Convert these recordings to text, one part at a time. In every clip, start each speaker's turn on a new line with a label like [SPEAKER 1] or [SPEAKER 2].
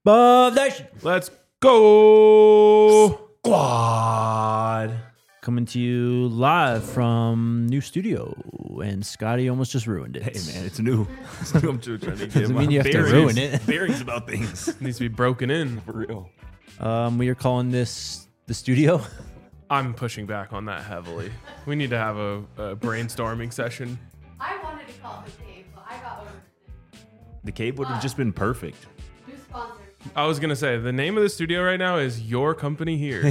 [SPEAKER 1] Bob Nation.
[SPEAKER 2] Let's go.
[SPEAKER 1] Squad. Coming to you live from new studio, and Scotty almost just ruined it.
[SPEAKER 3] Hey man, it's new. I'm trying to get
[SPEAKER 1] Doesn't
[SPEAKER 3] my
[SPEAKER 1] mean you have to
[SPEAKER 3] bearings-
[SPEAKER 1] ruin it.
[SPEAKER 3] Bearings about things.
[SPEAKER 2] It needs to be broken in.
[SPEAKER 3] For real.
[SPEAKER 1] We are calling this the studio.
[SPEAKER 2] I'm pushing back on that heavily. We need to have a brainstorming session.
[SPEAKER 4] I wanted to call it the cave, but I got over it.
[SPEAKER 3] The cave would have just been perfect.
[SPEAKER 4] New sponsor.
[SPEAKER 2] I was gonna say the name of the studio right now is Your Company Here.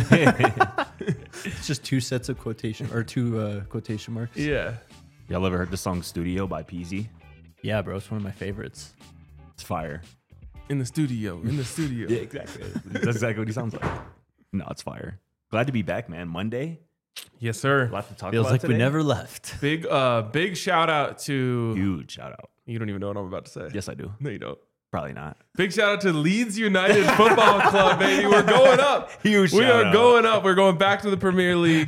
[SPEAKER 1] It's just two sets of quotation quotation marks.
[SPEAKER 2] Yeah.
[SPEAKER 3] Y'all ever heard the song Studio by Peasy?
[SPEAKER 1] Yeah, bro, it's one of my favorites.
[SPEAKER 3] It's fire.
[SPEAKER 2] In the studio. In the studio.
[SPEAKER 3] Yeah, exactly. That's exactly what he sounds like. No, it's fire. Glad to be back, man. Monday.
[SPEAKER 2] Yes, sir.
[SPEAKER 3] A lot to talk
[SPEAKER 1] Feels
[SPEAKER 3] about
[SPEAKER 1] like
[SPEAKER 3] today.
[SPEAKER 1] we never left.
[SPEAKER 2] Big shout out to.
[SPEAKER 3] Huge shout out.
[SPEAKER 2] You don't even know what I'm about to say.
[SPEAKER 3] Yes, I do.
[SPEAKER 2] No, you don't.
[SPEAKER 3] Probably not.
[SPEAKER 2] Big shout out to Leeds United Football Club, baby. We're going up.
[SPEAKER 3] Huge
[SPEAKER 2] We
[SPEAKER 3] shout
[SPEAKER 2] are
[SPEAKER 3] out.
[SPEAKER 2] going up. We're going back to the Premier League.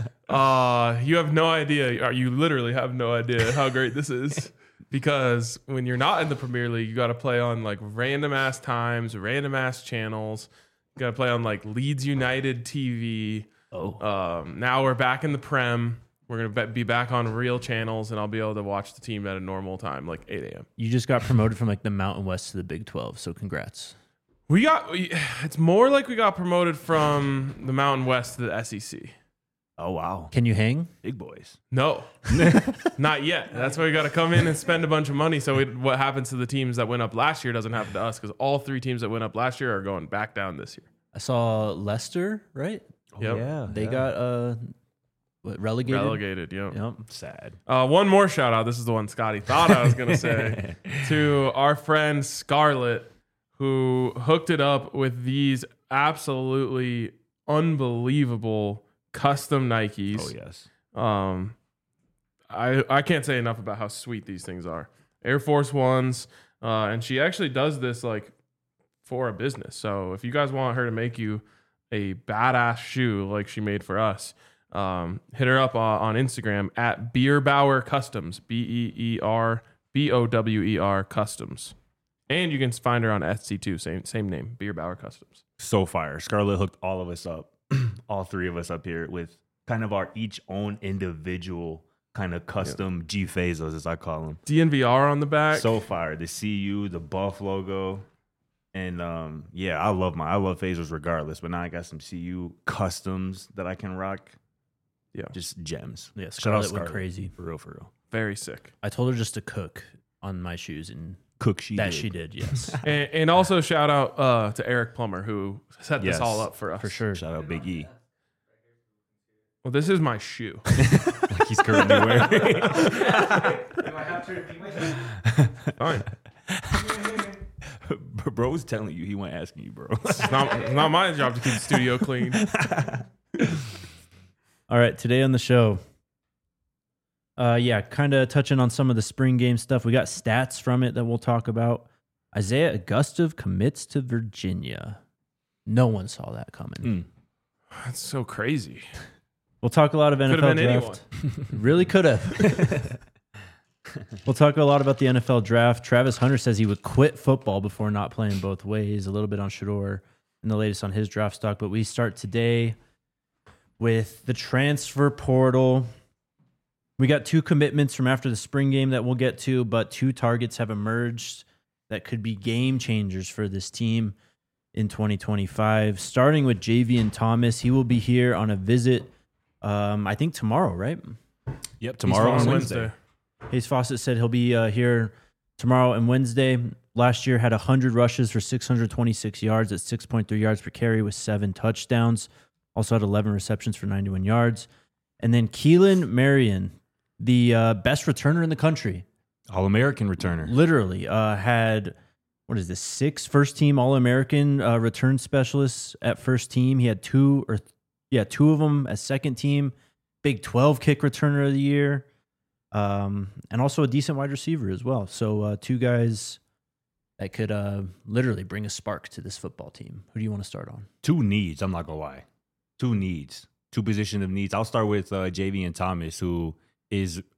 [SPEAKER 2] You have no idea. Or you literally have no idea how great this is. Because when you're not in the Premier League, you got to play on like random ass times, random ass channels. You got to play on like Leeds United TV.
[SPEAKER 1] Oh,
[SPEAKER 2] Now we're back in the Prem. We're going to be back on real channels, and I'll be able to watch the team at a normal time, like 8 a.m.
[SPEAKER 1] you just got promoted from like the Mountain West to the Big 12, so congrats.
[SPEAKER 2] It's more like we got promoted from the Mountain West to the SEC.
[SPEAKER 3] Oh, wow.
[SPEAKER 1] Can you hang?
[SPEAKER 3] Big boys.
[SPEAKER 2] No, not yet. That's why we got to come in and spend a bunch of money. So what happens to the teams that went up last year doesn't happen to us, because all three teams that went up last year are going back down this year.
[SPEAKER 1] I saw Leicester, right?
[SPEAKER 2] Yep.
[SPEAKER 3] Yeah.
[SPEAKER 1] They got relegated.
[SPEAKER 2] Relegated, yeah.
[SPEAKER 1] Yep.
[SPEAKER 3] Sad.
[SPEAKER 2] One more shout out. This is the one Scotty thought I was going to say. To our friend Scarlett, who hooked it up with these absolutely unbelievable custom Nikes.
[SPEAKER 3] Oh, yes.
[SPEAKER 2] I can't say enough about how sweet these things are. Air Force Ones. And she actually does this like for a business. So if you guys want her to make you a badass shoe like she made for us, hit her up on Instagram at Bierbauer Customs, BEERBOWER Customs. And you can find her on Etsy too, same name, Bierbauer Customs.
[SPEAKER 3] So fire. Scarlett hooked all of us up, all three of us up here, with kind of our each own individual kind of custom G Fazos, as I call them.
[SPEAKER 2] DNVR on the back.
[SPEAKER 3] So fire. The CU, the Buff logo. And yeah, I love Fazos regardless, but now I got some CU customs that I can rock.
[SPEAKER 2] Yeah.
[SPEAKER 3] Just gems.
[SPEAKER 1] Yeah,
[SPEAKER 3] Shout out
[SPEAKER 1] Scarlett went
[SPEAKER 3] Scarlett.
[SPEAKER 1] crazy.
[SPEAKER 3] For real, for real.
[SPEAKER 2] Very sick.
[SPEAKER 1] I told her just to cook on my shoes, and
[SPEAKER 3] Cook she did.
[SPEAKER 1] she did. Yes,
[SPEAKER 2] And also shout out to Eric Plummer, who set this
[SPEAKER 3] Yes.
[SPEAKER 2] all up for us.
[SPEAKER 1] for sure.
[SPEAKER 3] Shout out Big E.
[SPEAKER 2] Well, this is my shoe.
[SPEAKER 3] Like he's currently wearing.
[SPEAKER 4] Do I have to repeat myself?
[SPEAKER 2] Fine.
[SPEAKER 3] Bro's telling you, he went asking you, bro.
[SPEAKER 2] It's not my job to keep the studio clean.
[SPEAKER 1] All right, today on the show, kind of touching on some of the spring game stuff. We got stats from it that we'll talk about. Isaiah Augustov commits to Virginia. No one saw that coming.
[SPEAKER 2] That's so crazy.
[SPEAKER 1] We'll talk a lot of
[SPEAKER 2] Could
[SPEAKER 1] NFL
[SPEAKER 2] have been
[SPEAKER 1] draft. Really could have. We'll talk a lot about the NFL draft. Travis Hunter says he would quit football before not playing both ways. A little bit on Shador and the latest on his draft stock. But we start today with the transfer portal. We got two commitments from after the spring game that we'll get to, but two targets have emerged that could be game changers for this team in 2025. Starting with Javian Thomas. He will be here on a visit, I think tomorrow, right?
[SPEAKER 3] Yep, tomorrow
[SPEAKER 2] on
[SPEAKER 3] on
[SPEAKER 2] Wednesday.
[SPEAKER 1] Hayes Fawcett said he'll be here tomorrow and Wednesday. Last year had 100 rushes for 626 yards at 6.3 yards per carry with 7 touchdowns. Also had 11 receptions for 91 yards. And then Keelan Marion, the best returner in the country,
[SPEAKER 3] All-American returner.
[SPEAKER 1] literally had, 6 first-team All-American return specialists at first team. He had two of them as second team. Big 12 kick returner of the year. And also a decent wide receiver as well. So two guys that could literally bring a spark to this football team. Who do you want to start on?
[SPEAKER 3] Two needs, I'm not going to lie. Two needs. Two position of needs. I'll start with Javian Thomas, who is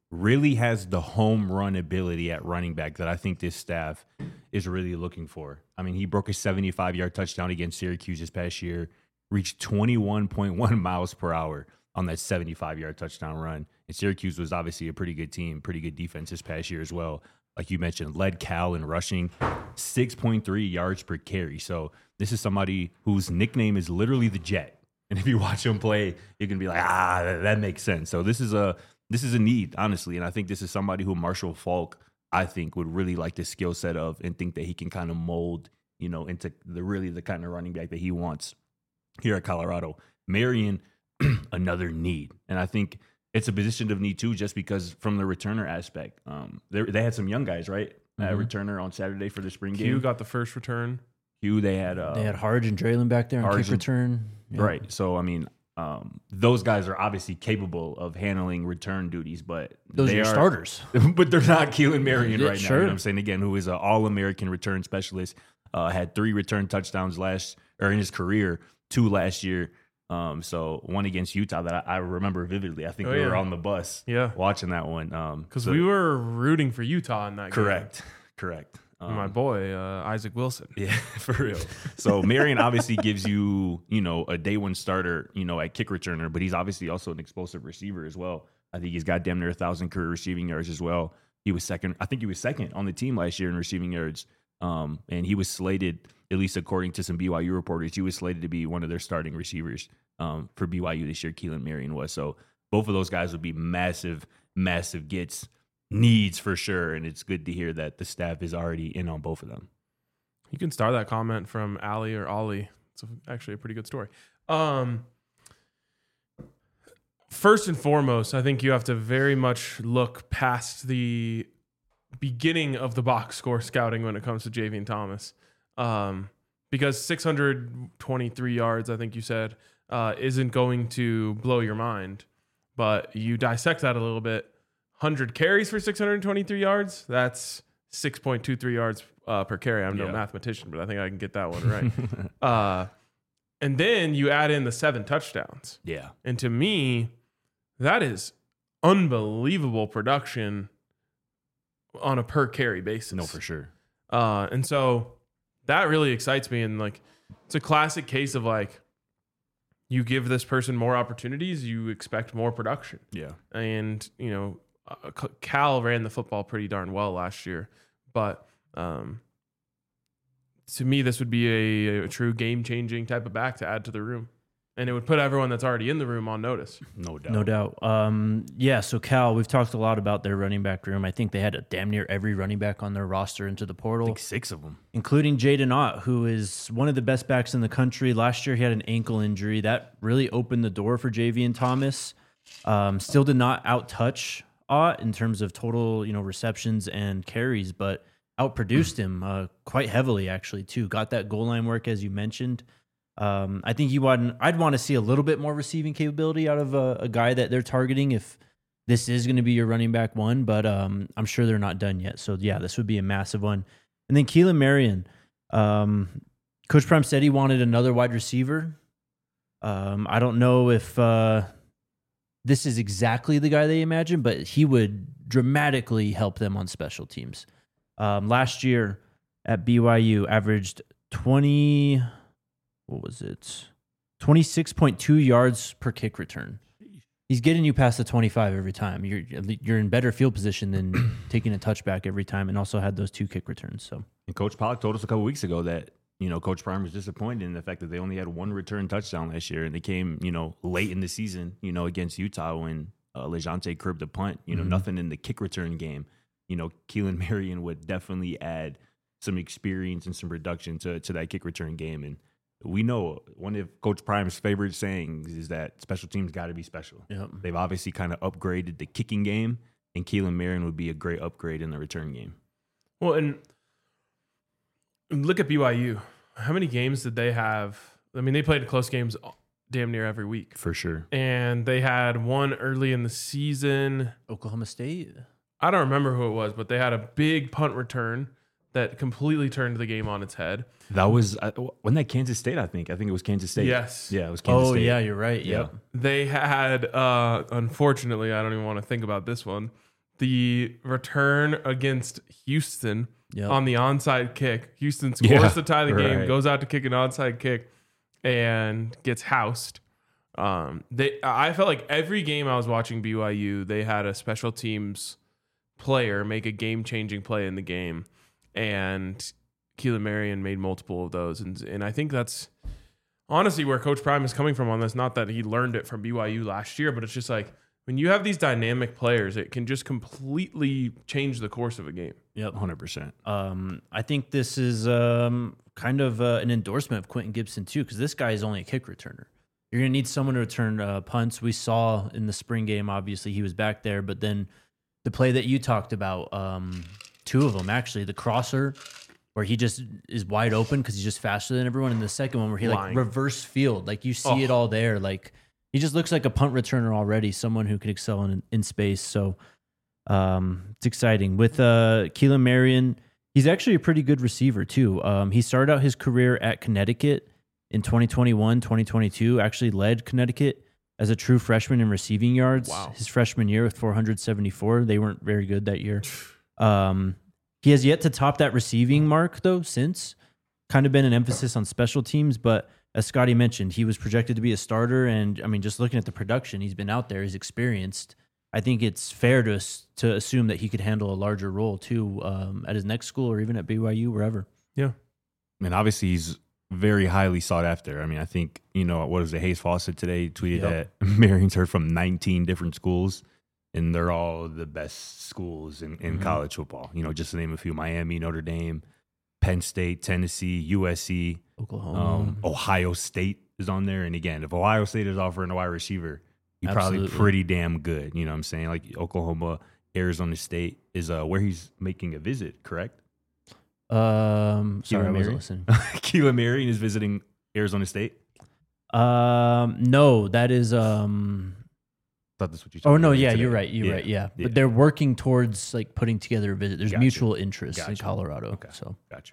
[SPEAKER 3] really has the home run ability at running back that I think this staff is really looking for. I mean, he broke a 75-yard touchdown against Syracuse this past year, reached 21.1 miles per hour on that 75-yard touchdown run. And Syracuse was obviously a pretty good team, pretty good defense this past year as well. Like you mentioned, led Cal in rushing, 6.3 yards per carry. So this is somebody whose nickname is literally the Jet. And if you watch him play, you can be like, that makes sense. So this is a need, honestly. And I think this is somebody who Marshall Faulk, I think, would really like the skill set of and think that he can kind of mold, into the kind of running back that he wants here at Colorado. Marion, another need. And I think it's a position of need too, just because from the returner aspect. They had some young guys, right? Returner on Saturday for the spring game.
[SPEAKER 2] Hugh got the first return.
[SPEAKER 3] Hugh, they had
[SPEAKER 1] Harge and Draylen back there on kick return. Yeah.
[SPEAKER 3] Right. So, I mean, those guys are obviously capable of handling return duties, but
[SPEAKER 1] those are starters.
[SPEAKER 3] But they're not Keelan Marion right now.
[SPEAKER 1] Sure.
[SPEAKER 3] You know what I'm saying? Again, who is an All-American return specialist, had 3 return touchdowns in his career, 2 last year. So one against Utah that I remember vividly. I think we were on the bus watching that one.
[SPEAKER 2] Because we were rooting for Utah in that game.
[SPEAKER 3] Correct.
[SPEAKER 2] My boy, Isaac Wilson.
[SPEAKER 3] Yeah, for real. So Marion obviously gives you, a day one starter, at kick returner, but he's obviously also an explosive receiver as well. I think he's got damn near 1,000 career receiving yards as well. He was second on the team last year in receiving yards. And he was slated, at least according to some BYU reporters, he was slated to be one of their starting receivers for BYU this year. Keelan Marion was. So both of those guys would be massive, massive gets. Needs for sure, and it's good to hear that the staff is already in on both of them.
[SPEAKER 2] You can start that comment from Ali or Ollie. It's actually a pretty good story. First and foremost, I think you have to very much look past the beginning of the box score scouting when it comes to Javian Thomas, because 623 yards, I think you said, isn't going to blow your mind, but you dissect that a little bit. 100 carries for 623 yards. That's 6.23 yards per carry. I'm no mathematician, but I think I can get that one right. And then you add in the 7 touchdowns.
[SPEAKER 3] Yeah.
[SPEAKER 2] And to me, that is unbelievable production on a per carry basis.
[SPEAKER 3] No, for sure.
[SPEAKER 2] And so that really excites me. And it's a classic case of you give this person more opportunities, you expect more production.
[SPEAKER 3] Yeah.
[SPEAKER 2] And, Cal ran the football pretty darn well last year, but to me, this would be a true game-changing type of back to add to the room, and it would put everyone that's already in the room on notice.
[SPEAKER 1] No doubt. So Cal, we've talked a lot about their running back room. I think they had damn near every running back on their roster into the portal.
[SPEAKER 3] I think 6 of them.
[SPEAKER 1] Including Jaden Ott, who is one of the best backs in the country. Last year, he had an ankle injury. That really opened the door for Javian Thomas. Still did not out-touch Ott in terms of total, receptions and carries, but outproduced him quite heavily, actually, too. Got that goal line work, as you mentioned. I think I'd want to see a little bit more receiving capability out of a guy that they're targeting if this is going to be your running back one, but I'm sure they're not done yet. So, yeah, this would be a massive one. And then Keelan Marion. Coach Prime said he wanted another wide receiver. I don't know if this is exactly the guy they imagined, but he would dramatically help them on special teams. Last year at BYU, averaged 26.2 yards per kick return. He's getting you past the 25 every time. You're in better field position than taking a touchback every time, and also had those 2 kick returns. So,
[SPEAKER 3] and Coach Pollock told us a couple weeks ago that Coach Prime was disappointed in the fact that they only had 1 return touchdown last year, and they came, late in the season, against Utah when Lejante curbed the punt. Nothing in the kick return game. Keelan Marion would definitely add some experience and some production to that kick return game. And we know one of Coach Prime's favorite sayings is that special teams got to be special.
[SPEAKER 1] Yep.
[SPEAKER 3] They've obviously kind of upgraded the kicking game, and Keelan Marion would be a great upgrade in the return game.
[SPEAKER 2] Well, and look at BYU. How many games did they have? I mean, they played close games damn near every week.
[SPEAKER 3] For sure.
[SPEAKER 2] And they had one early in the season.
[SPEAKER 1] Oklahoma State?
[SPEAKER 2] I don't remember who it was, but they had a big punt return that completely turned the game on its head.
[SPEAKER 3] That was, wasn't that Kansas State, I think? I think it was Kansas State.
[SPEAKER 2] Yes.
[SPEAKER 3] Yeah, it was Kansas State.
[SPEAKER 1] Oh, yeah, you're right.
[SPEAKER 3] Yeah.
[SPEAKER 1] Yep.
[SPEAKER 2] They had, unfortunately, I don't even want to think about this one. the return against Houston
[SPEAKER 1] Yep.
[SPEAKER 2] on the onside kick. Houston scores
[SPEAKER 3] Yeah,
[SPEAKER 2] to tie the game,
[SPEAKER 3] right.
[SPEAKER 2] goes out to kick an onside kick, and gets housed. I felt like every game I was watching BYU, they had a special teams player make a game-changing play in the game, and Keelan Marion made multiple of those. And I think that's honestly where Coach Prime is coming from on this. Not that he learned it from BYU last year, but it's just like when you have these dynamic players, it can just completely change the course of a game.
[SPEAKER 1] Yep.
[SPEAKER 3] 100%.
[SPEAKER 1] I think this is kind of an endorsement of Quentin Gibson too, because this guy is only a kick returner. You're going to need someone to return punts. We saw in the spring game, obviously he was back there, but then the play that you talked about, two of them actually, the crosser where he just is wide open because he's just faster than everyone, and the second one where he like reverse field, like you see it all there. Like he just looks like a punt returner already, someone who could excel in space. So it's exciting. With Keelan Marion, he's actually a pretty good receiver too. He started out his career at Connecticut in 2021, 2022, actually led Connecticut as a true freshman in receiving yards.
[SPEAKER 2] Wow.
[SPEAKER 1] His freshman year with 474. They weren't very good that year. He has yet to top that receiving mark, though, since. Kind of been an emphasis on special teams, but as Scotty mentioned, he was projected to be a starter, and I mean, just looking at the production, he's been out there, he's experienced. I think it's fair to assume that he could handle a larger role, too, at his next school or even at BYU, wherever.
[SPEAKER 2] Yeah.
[SPEAKER 3] I mean, obviously, he's very highly sought after. I mean, I think, what was it? Hayes Fawcett today tweeted that Marion's heard from 19 different schools, and they're all the best schools in college football. Just to name a few: Miami, Notre Dame, Penn State, Tennessee, USC,
[SPEAKER 1] Oklahoma.
[SPEAKER 3] Ohio State is on there. And again, if Ohio State is offering a wide receiver, he's probably
[SPEAKER 1] Absolutely.
[SPEAKER 3] pretty damn good. You know what I'm saying? Like Oklahoma, Arizona State is where he's making a visit, correct?
[SPEAKER 1] Sorry, I wasn't listening.
[SPEAKER 3] Keelan Marion is visiting Arizona State.
[SPEAKER 1] No, that is.
[SPEAKER 3] Thought that's what you told
[SPEAKER 1] Oh
[SPEAKER 3] me
[SPEAKER 1] no,
[SPEAKER 3] earlier
[SPEAKER 1] yeah,
[SPEAKER 3] today.
[SPEAKER 1] you're right. You're right. Yeah.
[SPEAKER 3] Yeah.
[SPEAKER 1] But they're working towards like putting together a visit. There's
[SPEAKER 3] Gotcha.
[SPEAKER 1] mutual interest in
[SPEAKER 3] Gotcha.
[SPEAKER 1] Colorado.
[SPEAKER 3] Okay.
[SPEAKER 1] So,
[SPEAKER 3] Gotcha.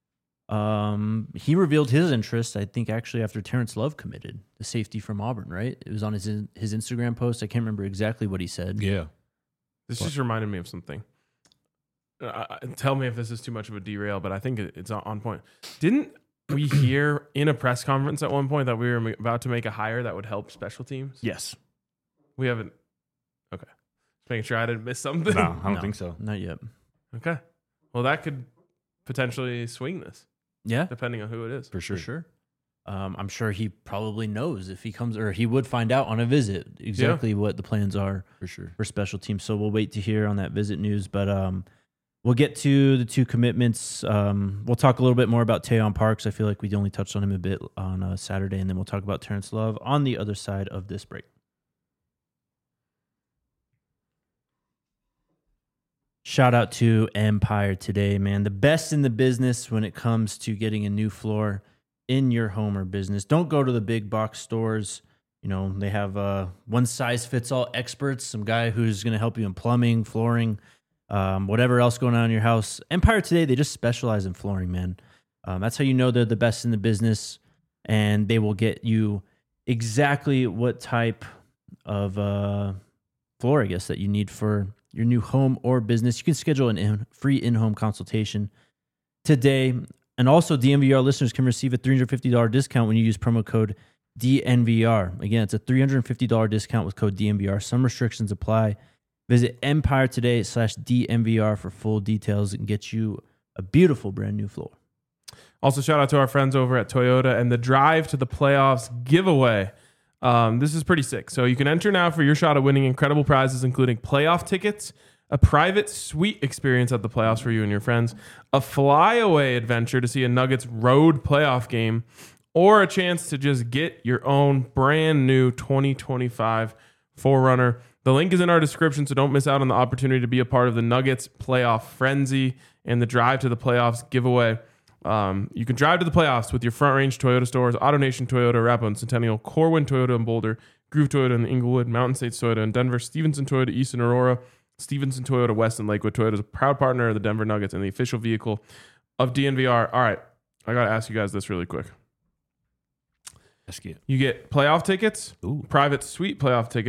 [SPEAKER 1] he revealed his interest, I think, actually after Terrence Love committed, the safety from Auburn. Right? It was on his Instagram post. I can't remember exactly what he said.
[SPEAKER 3] Yeah.
[SPEAKER 2] This just reminded me of something. Tell me if this is too much of a derail, but I think it's on point. Didn't we hear in a press conference at one point that we were about to make a hire that would help special teams?
[SPEAKER 3] Yes.
[SPEAKER 2] We haven't. Okay. Just making sure I didn't miss something.
[SPEAKER 3] No, I don't
[SPEAKER 1] No.
[SPEAKER 3] think so.
[SPEAKER 1] Not yet.
[SPEAKER 2] Okay. Well, that could potentially swing this,
[SPEAKER 1] Yeah,
[SPEAKER 2] depending on who it is.
[SPEAKER 3] For sure.
[SPEAKER 1] for sure. I'm sure he probably knows if he comes, or he would find out on a visit exactly what the plans are
[SPEAKER 3] For sure.
[SPEAKER 1] for special teams. So we'll wait to hear on that visit news. But we'll get to the two commitments. We'll talk a little bit more about Tayon Parks. I feel like we only touched on him a bit on Saturday, and then we'll talk about Terrence Love on the other side of this break. Shout out to Empire today, man. The best in the business when it comes to getting a new floor in your home or business. Don't go to the big box stores. They have one size fits all experts, some guy who's going to help you in plumbing, flooring, whatever else going on in your house. Empire today, they just specialize in flooring, man. That's how you know they're the best in the business, and they will get you exactly what type of floor, I guess, that you need for your new home or business. You can schedule a free in-home consultation today. And also, DNVR listeners can receive a $350 discount when you use promo code DNVR. Again, it's a $350 discount with code DNVR. Some restrictions apply. Visit Empire today/DNVR for full details and get you a beautiful brand new floor.
[SPEAKER 2] Also, shout out to our friends over at Toyota and the Drive to the Playoffs giveaway. This is pretty sick. So you can enter now for your shot at winning incredible prizes, including playoff tickets, a private suite experience at the playoffs for you and your friends, a flyaway adventure to see a Nuggets road playoff game, or a chance to just get your own brand new 2025 4Runner. The link is in our description, so don't miss out on the opportunity to be a part of the Nuggets playoff frenzy and the Drive to the Playoffs giveaway. You can drive to the playoffs with your Front Range Toyota stores, AutoNation Toyota, Arapahoe and Centennial, Corwin Toyota in Boulder, Groove Toyota in Inglewood, Mountain States Toyota in Denver, Stevenson Toyota East in Aurora, Stevenson Toyota West in Lakewood. Toyota is a proud partner of the Denver Nuggets and the official vehicle of DNVR. All right, I got to ask you guys this really quick.
[SPEAKER 3] Let's get.
[SPEAKER 2] You get playoff tickets,
[SPEAKER 3] Ooh.
[SPEAKER 2] private suite playoff tickets,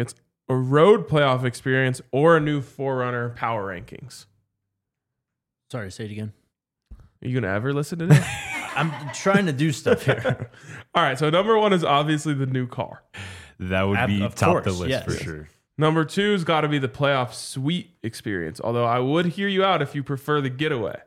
[SPEAKER 2] a road playoff experience, or a new Forerunner power rankings?
[SPEAKER 1] Sorry, say it again.
[SPEAKER 2] Are you going to ever listen to this?
[SPEAKER 1] I'm trying to do stuff here.
[SPEAKER 2] All right, so number 1 is obviously the new car.
[SPEAKER 3] That would be
[SPEAKER 1] Of
[SPEAKER 3] top the
[SPEAKER 1] course,
[SPEAKER 3] list
[SPEAKER 1] yes.
[SPEAKER 3] for sure.
[SPEAKER 2] Number 2's got to be the playoff suite experience, although I would hear you out if you prefer the getaway.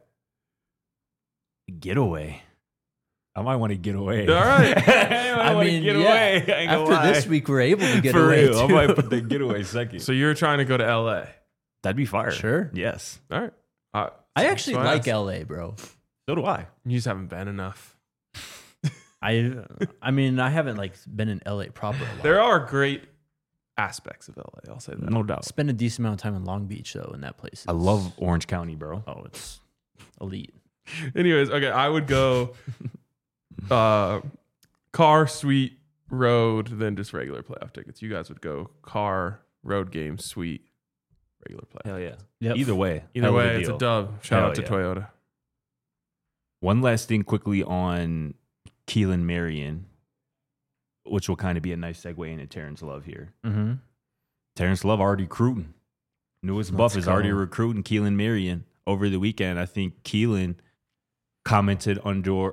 [SPEAKER 3] Getaway. I might want to get away.
[SPEAKER 2] All right.
[SPEAKER 3] I mean, get away. I ain't gonna
[SPEAKER 1] After this
[SPEAKER 3] lie.
[SPEAKER 1] week, we're able to get
[SPEAKER 3] For
[SPEAKER 1] away
[SPEAKER 3] real, I
[SPEAKER 1] too.
[SPEAKER 3] might put the getaway second.
[SPEAKER 2] So you're trying to go to LA.
[SPEAKER 3] That'd be fire.
[SPEAKER 1] Sure.
[SPEAKER 3] Yes.
[SPEAKER 2] All right.
[SPEAKER 1] I actually
[SPEAKER 2] So
[SPEAKER 1] like
[SPEAKER 2] asked.
[SPEAKER 1] LA, bro.
[SPEAKER 3] So do I.
[SPEAKER 2] You just haven't been enough.
[SPEAKER 1] I mean, I haven't like been in LA proper a lot.
[SPEAKER 2] There are great aspects of LA. I'll say that.
[SPEAKER 3] No doubt.
[SPEAKER 1] Spent a decent amount of time in Long Beach though, in that place.
[SPEAKER 3] I love Orange County, bro.
[SPEAKER 1] Oh, it's elite.
[SPEAKER 2] Anyways, okay, I would go car, suite, road, then just regular playoff tickets. You guys would go car, road game, suite, regular playoff.
[SPEAKER 3] Hell yeah.
[SPEAKER 1] Yep.
[SPEAKER 3] Either way.
[SPEAKER 2] Either
[SPEAKER 3] hell of
[SPEAKER 2] way, it's a
[SPEAKER 3] deal.
[SPEAKER 2] dub. Shout
[SPEAKER 3] Hell
[SPEAKER 2] out to
[SPEAKER 3] yeah.
[SPEAKER 2] Toyota.
[SPEAKER 3] One last thing quickly on Keelan Marion, which will kind of be a nice segue into Terrence Love here.
[SPEAKER 1] Mm-hmm.
[SPEAKER 3] Terrence Love already recruiting. Newest buff is already recruiting Keelan Marion over the weekend. I think Keelan commented under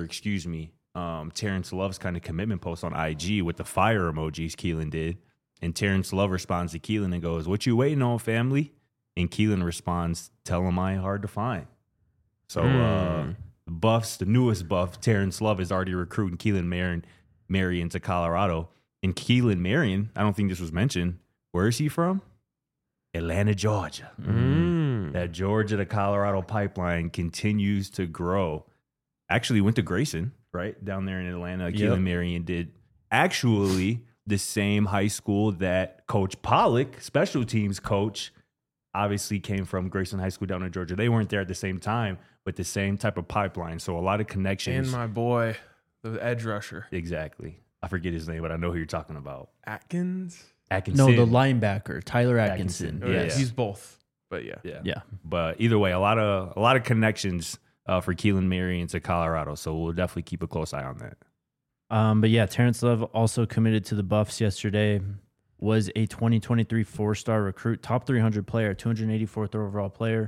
[SPEAKER 3] Terrence Love's kind of commitment post on IG with the fire emojis Keelan did. And Terrence Love responds to Keelan and goes, "What you waiting on, family?" And Keelan responds, "Tell him I ain't hard to find." So the buffs, the newest buff, Terrence Love is already recruiting Keelan Marion to Colorado. And Keelan Marion, I don't think this was mentioned. Where is he from? Atlanta, Georgia. That Georgia to Colorado pipeline continues to grow. Actually went to Grayson, right? Down there in Atlanta.
[SPEAKER 1] Yep.
[SPEAKER 3] Keelan Marion did. Actually, the same high school that Coach Pollock, special teams coach, obviously came from, Grayson High School down in Georgia. They weren't there at the same time, but the same type of pipeline. So a lot of connections.
[SPEAKER 2] And my boy, the edge rusher.
[SPEAKER 3] Exactly. I forget his name, but I know who you're talking about.
[SPEAKER 2] Atkins?
[SPEAKER 3] Atkinson.
[SPEAKER 1] No, the linebacker, Tyler Atkinson.
[SPEAKER 3] Atkinson.
[SPEAKER 2] Oh,
[SPEAKER 3] Yeah.
[SPEAKER 2] He's both. But yeah.
[SPEAKER 1] Yeah.
[SPEAKER 3] But either way, a lot of connections for Keelan Marion to Colorado. So we'll definitely keep a close eye on that.
[SPEAKER 1] But yeah, Terrence Love also committed to the Buffs yesterday. Was a 2023 four-star recruit, top 300 player, 284th overall player,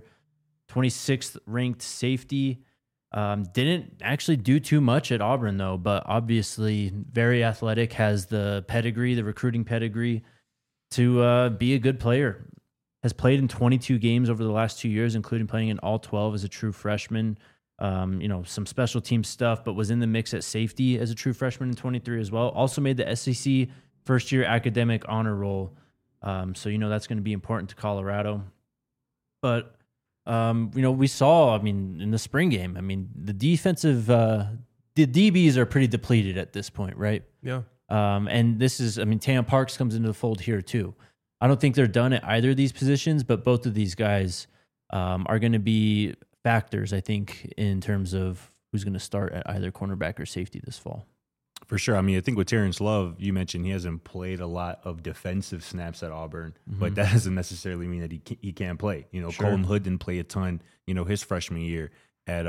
[SPEAKER 1] 26th ranked safety. Didn't actually do too much at Auburn though, but obviously very athletic, has the pedigree, the recruiting pedigree to be a good player. Has played in 22 games over the last 2 years, including playing in all 12 as a true freshman. Some special team stuff, but was in the mix at safety as a true freshman in 23 as well. Also made the SEC first year academic honor roll. So that's going to be important to Colorado. But, we saw, in the spring game, the defensive, the DBs are pretty depleted at this point, right?
[SPEAKER 2] Yeah.
[SPEAKER 1] And this is, Tam Parks comes into the fold here too. I don't think they're done at either of these positions, but both of these guys are going to be factors, I think, in terms of who's going to start at either cornerback or safety this fall.
[SPEAKER 3] For sure. I think with Terrence Love, you mentioned he hasn't played a lot of defensive snaps at Auburn, but that doesn't necessarily mean that he can't play.
[SPEAKER 1] Sure.
[SPEAKER 3] Colton Hood didn't play a ton, his freshman year at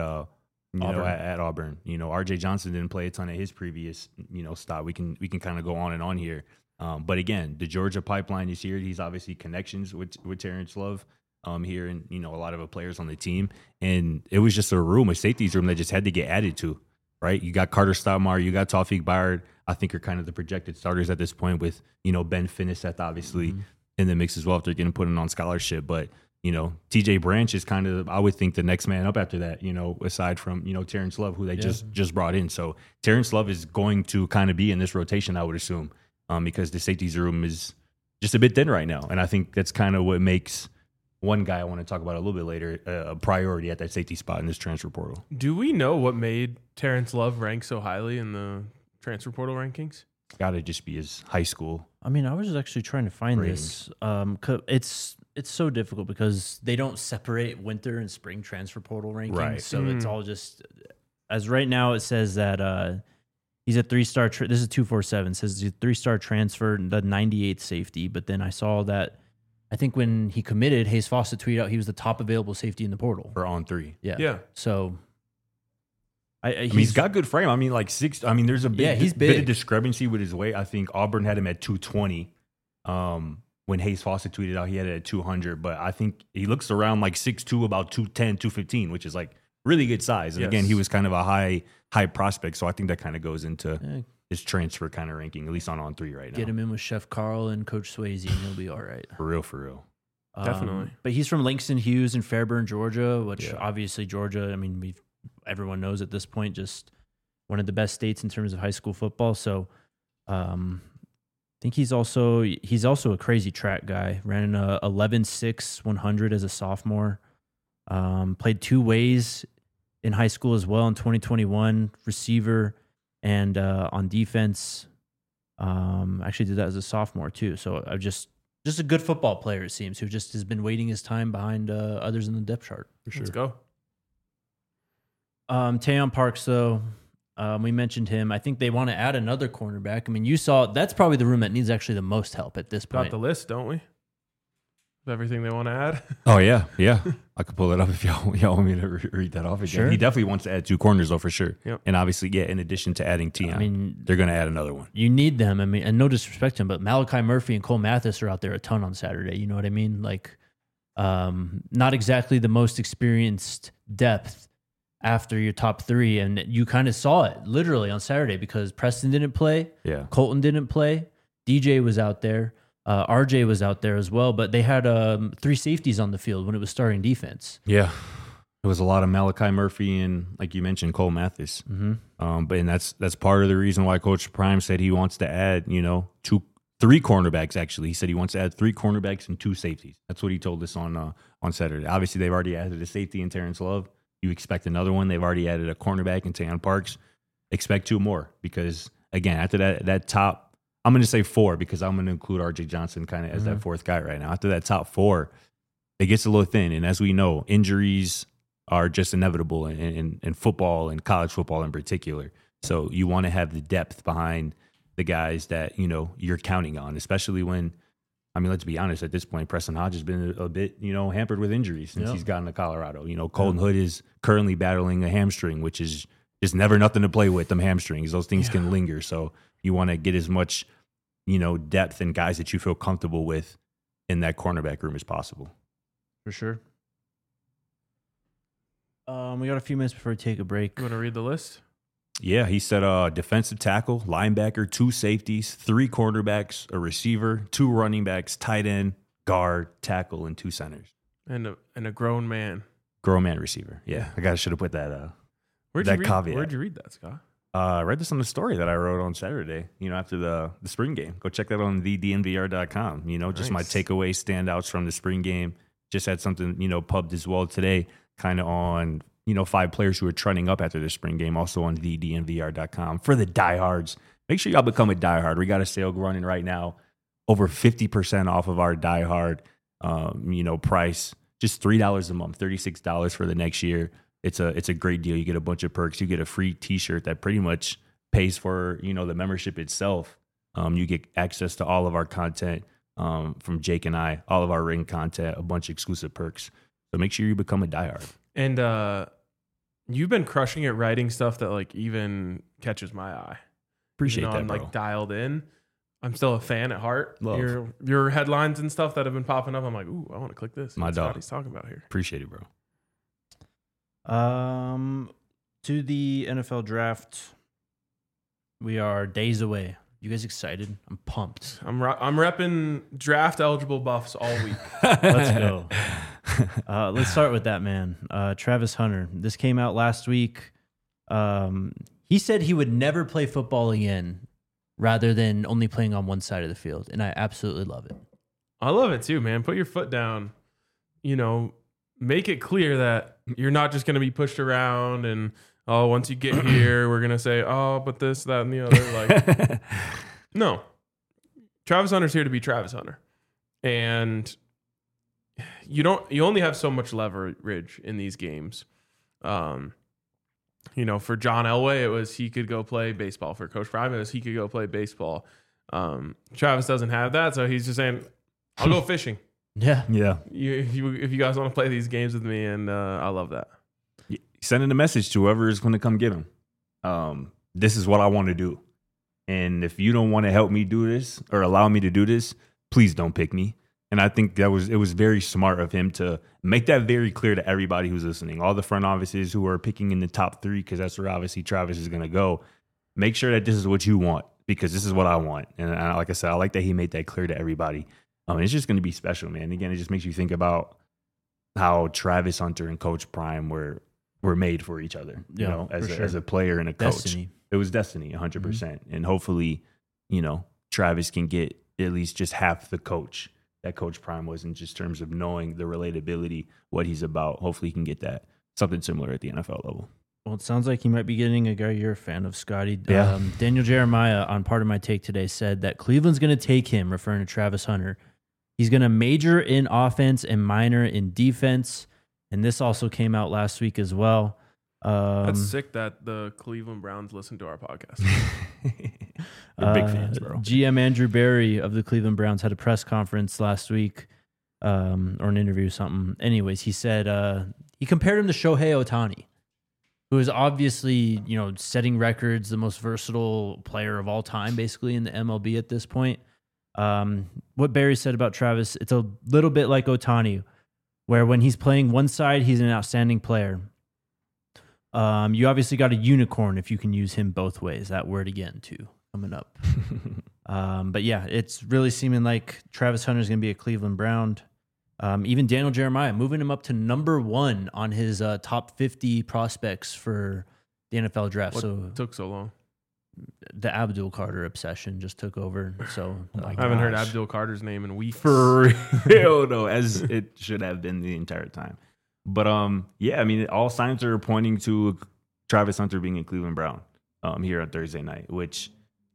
[SPEAKER 3] at Auburn. RJ Johnson didn't play a ton at his previous, stop. We can kind of go on and on here. But again, the Georgia pipeline is here. He's obviously connections with Terrence Love here, and a lot of the players on the team. And it was just a safeties room that just had to get added to. Right, you got Carter Stoudemire, you got Tawfiq Byard. I think are kind of the projected starters at this point. With Ben Finnisseth obviously in the mix as well if they're getting put in on scholarship. But TJ Branch is kind of, I would think, the next man up after that. Aside from Terrence Love, who they just brought in. So Terrence Love is going to kind of be in this rotation, I would assume, because the safeties room is just a bit thin right now, and I think that's kind of what makes one guy I want to talk about a little bit later, a priority at that safety spot in this transfer portal.
[SPEAKER 2] Do we know what made Terrence Love rank so highly in the transfer portal rankings?
[SPEAKER 3] Got to just be his high school.
[SPEAKER 1] I was actually trying to find this. 'Cause it's so difficult because they don't separate winter and spring transfer portal rankings.
[SPEAKER 3] Right.
[SPEAKER 1] So it's all just, as right now it says that he's a 3-star. This is 247. Says he's a 3-star transfer, the 98th safety. But then I saw that, I think when he committed, Hayes Fawcett tweeted out he was the top available safety in the portal.
[SPEAKER 3] For on 3.
[SPEAKER 2] Yeah.
[SPEAKER 1] So
[SPEAKER 3] he's got good frame. Like 6. There's a big,
[SPEAKER 1] he's
[SPEAKER 3] bit of
[SPEAKER 1] big.
[SPEAKER 3] discrepancy with his weight. I think Auburn had him at 220. when Hayes Fawcett tweeted out he had it at 200, but I think he looks around like 6'2", about 210, 215, which is like really good size. And again, he was kind of a high prospect, so I think that kind of goes into his transfer kind of ranking, at least on 3 right now.
[SPEAKER 1] Get him in with Chef Carl and Coach Swayze, and he'll be all right.
[SPEAKER 3] For real.
[SPEAKER 2] Definitely.
[SPEAKER 1] But he's from Langston Hughes in Fairburn, Georgia, which obviously Georgia, I mean, everyone knows at this point, just one of the best states in terms of high school football. So I think he's also a crazy track guy. Ran an 11.6 100 as a sophomore. Played 2 ways in high school as well in 2021, receiver and on defense. Actually did that as a sophomore too. So I just a good football player, it seems, who just has been waiting his time behind others in the depth chart for sure.
[SPEAKER 2] Let's go.
[SPEAKER 1] Tayon Parks, though, we mentioned him. I think they want to add another cornerback. I mean, you saw that's probably the room that needs actually the most help at this point.
[SPEAKER 2] Got the list, don't we? Of everything they want to add.
[SPEAKER 3] Oh yeah. I could pull it up if y'all want me to read that off again.
[SPEAKER 1] Sure.
[SPEAKER 3] He definitely wants to add 2 corners though, for sure.
[SPEAKER 2] Yep.
[SPEAKER 3] And obviously, in addition to adding Tion,
[SPEAKER 1] I mean,
[SPEAKER 3] they're going to add another one.
[SPEAKER 1] You need them. I mean, and no disrespect to him, but Malachi Murphy and Cole Mathis are out there a ton on Saturday. You know what I mean? Like, not exactly the most experienced depth after your top 3, and you kind of saw it literally on Saturday because Preston didn't play, Colton didn't play, DJ was out there, RJ was out there as well, but they had 3 safeties on the field when it was starting defense.
[SPEAKER 3] Yeah, it was a lot of Malachi Murphy and, like you mentioned, Cole Mathis.
[SPEAKER 1] Mm-hmm.
[SPEAKER 3] But that's part of the reason why Coach Prime said he wants to add 3 cornerbacks. Actually, he said he wants to add 3 cornerbacks and 2 safeties. That's what he told us on Saturday. Obviously, they've already added a safety in Terrence Love. You expect another one. They've already added a cornerback in Tayon Parks. Expect 2 more because, again, after that top, I'm going to say 4 because I'm going to include RJ Johnson kind of as that 4th guy right now. After that top 4, it gets a little thin. And as we know, injuries are just inevitable in football and college football in particular. So you want to have the depth behind the guys that, you're counting on, especially when, I mean, let's be honest, at this point, Preston Hodge has been a bit, hampered with injuries since he's gotten to Colorado. Colton Hood is currently battling a hamstring, which is just never nothing to play with, them hamstrings. Those things can linger. So you want to get as much, depth and guys that you feel comfortable with in that cornerback room as possible.
[SPEAKER 1] For sure. We got a few minutes before we take a break.
[SPEAKER 2] You want to read the list?
[SPEAKER 3] Yeah, he said defensive tackle, linebacker, 2 safeties, 3 cornerbacks, a receiver, 2 running backs, tight end, guard, tackle, and 2 centers.
[SPEAKER 2] And a grown man.
[SPEAKER 3] Grown man receiver. Yeah, I should have put that caveat.
[SPEAKER 2] Where'd you read that, Scott?
[SPEAKER 3] I read this on the story that I wrote on Saturday, after the spring game. Go check that on thednvr.com. Just my takeaway standouts from the spring game. Just had something, pubbed as well today, kind of on 5 players who are trending up after the spring game, also on thednvr.com. For the diehards, make sure y'all become a diehard. We got a sale running right now, over 50% off of our diehard, price. Just $3 a month, $36 for the next year. It's a great deal. You get a bunch of perks. You get a free T-shirt that pretty much pays for the membership itself. You get access to all of our content from Jake and I, all of our ring content, a bunch of exclusive perks. So make sure you become a diehard.
[SPEAKER 2] And you've been crushing it writing stuff that like even catches my eye.
[SPEAKER 3] Appreciate that,
[SPEAKER 2] I'm
[SPEAKER 3] bro.
[SPEAKER 2] like dialed in. I'm still a fan at heart.
[SPEAKER 3] Love.
[SPEAKER 2] Your headlines and stuff that have been popping up. I'm like, ooh, I want to click this.
[SPEAKER 3] My
[SPEAKER 2] That's
[SPEAKER 3] dog.
[SPEAKER 2] what he's talking about here.
[SPEAKER 3] Appreciate it, bro.
[SPEAKER 1] To the NFL draft, we are days away. You guys excited? I'm pumped.
[SPEAKER 2] I'm repping draft eligible buffs all week.
[SPEAKER 1] Let's go. Let's start with that, man. Travis Hunter. This came out last week. He said he would never play football again rather than only playing on one side of the field. And I absolutely love it.
[SPEAKER 2] I love it too, man. Put your foot down. Make it clear that you're not just going to be pushed around and, oh, once you get here, we're going to say, oh, but this, that, and the other. Like, no. Travis Hunter's here to be Travis Hunter. And you only have so much leverage in these games. For John Elway, it was he could go play baseball. For Coach Prime, it was he could go play baseball. Travis doesn't have that, so he's just saying, I'll go fishing.
[SPEAKER 1] Yeah.
[SPEAKER 2] If you guys want to play these games with me, and I love that.
[SPEAKER 3] Sending a message to whoever is going to come get him. This is what I want to do. And if you don't want to help me do this or allow me to do this, please don't pick me. And I think it was very smart of him to make that very clear to everybody who's listening, all the front offices who are picking in the top 3, because that's where obviously Travis is going to go. Make sure that this is what you want, because this is what I want. And like I said, I like that he made that clear to everybody. It's just going to be special, man. Again, it just makes you think about how Travis Hunter and Coach Prime were made for each other, as a player and a coach.
[SPEAKER 1] Destiny.
[SPEAKER 3] It was destiny, 100%. Mm-hmm. And hopefully, Travis can get at least just half the coach that Coach Prime was in just terms of knowing the relatability, what he's about. Hopefully he can get that. Something similar at the NFL level.
[SPEAKER 1] Well, it sounds like he might be getting a guy you're a fan of, Scotty.
[SPEAKER 3] Yeah.
[SPEAKER 1] Daniel Jeremiah on Part of My Take today said that Cleveland's going to take him, referring to Travis Hunter. He's going to major in offense and minor in defense. And this also came out last week as well.
[SPEAKER 2] That's sick that the Cleveland Browns listen to our podcast.
[SPEAKER 3] They're big fans, bro.
[SPEAKER 1] GM Andrew Berry of the Cleveland Browns had a press conference last week, or an interview or something. Anyways, he said he compared him to Shohei Ohtani, who is obviously, setting records, the most versatile player of all time, basically in the MLB at this point. What Berry said about Travis, it's a little bit like Ohtani, where when he's playing one side, he's an outstanding player. You obviously got a unicorn if you can use him both ways. That word again, too, coming up. But yeah, it's really seeming like Travis Hunter is going to be a Cleveland Brown. Even Daniel Jeremiah moving him up to number 1 on his top 50 prospects for the NFL draft.
[SPEAKER 2] What took so long?
[SPEAKER 1] The Abdul Carter obsession just took over. So
[SPEAKER 2] I haven't heard Abdul Carter's name in weeks.
[SPEAKER 3] For real, though, as it should have been the entire time. But yeah, I mean, all signs are pointing to Travis Hunter being a Cleveland Brown here on Thursday night, which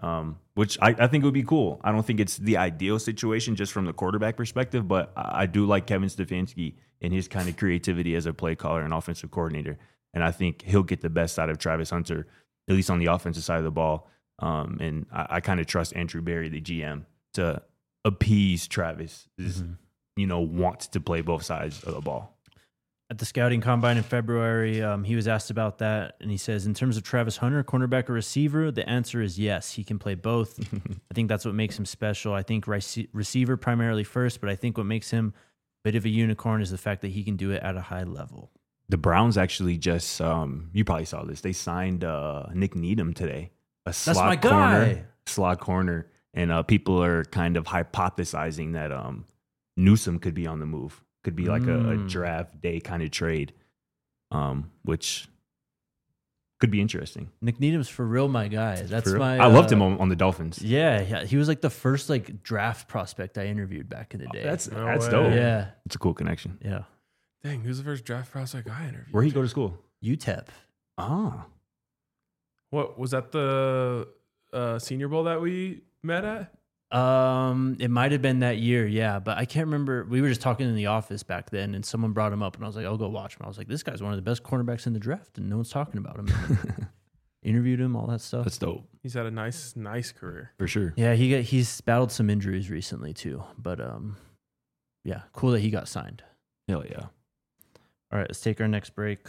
[SPEAKER 3] I think would be cool. I don't think it's the ideal situation just from the quarterback perspective, but I do like Kevin Stefanski and his kind of creativity as a play caller and offensive coordinator, and I think he'll get the best out of Travis Hunter, at least on the offensive side of the ball. And I kind of trust Andrew Berry, the GM, to appease Travis, wants to play both sides of the ball.
[SPEAKER 1] At the scouting combine in February, he was asked about that, and he says, in terms of Travis Hunter, cornerback or receiver, the answer is yes. He can play both. I think that's what makes him special. I think receiver primarily first, but I think what makes him a bit of a unicorn is the fact that he can do it at a high level.
[SPEAKER 3] The Browns actually just, you probably saw this, they signed Nick Needham today.
[SPEAKER 1] That's my guy.
[SPEAKER 3] Slot corner. And people are kind of hypothesizing that Newsome could be on the move. Could be like a draft day kind of trade, which could be interesting.
[SPEAKER 1] Nick Needham's for real my guy. That's my.
[SPEAKER 3] I loved him on the Dolphins.
[SPEAKER 1] Yeah, he was like the first draft prospect I interviewed back in the day.
[SPEAKER 3] That's
[SPEAKER 2] way.
[SPEAKER 3] dope.
[SPEAKER 1] Yeah,
[SPEAKER 3] it's a cool connection.
[SPEAKER 1] Yeah.
[SPEAKER 2] Dang, who's the first draft prospect I interviewed?
[SPEAKER 3] Where'd he go to school?
[SPEAKER 1] UTEP.
[SPEAKER 3] Ah,
[SPEAKER 2] what was that? The Senior Bowl that we met at?
[SPEAKER 1] It might have been that year, yeah, but I can't remember. We were just talking in the office back then, and someone brought him up, and I was like, "I'll go watch him." I was like, "This guy's one of the best cornerbacks in the draft, and no one's talking about him." Interviewed him, all that stuff.
[SPEAKER 3] That's dope.
[SPEAKER 2] He's had a nice career
[SPEAKER 3] For sure.
[SPEAKER 1] Yeah, he's battled some injuries recently too, but yeah, cool that he got signed.
[SPEAKER 3] Hell yeah.
[SPEAKER 1] All right, let's take our next break.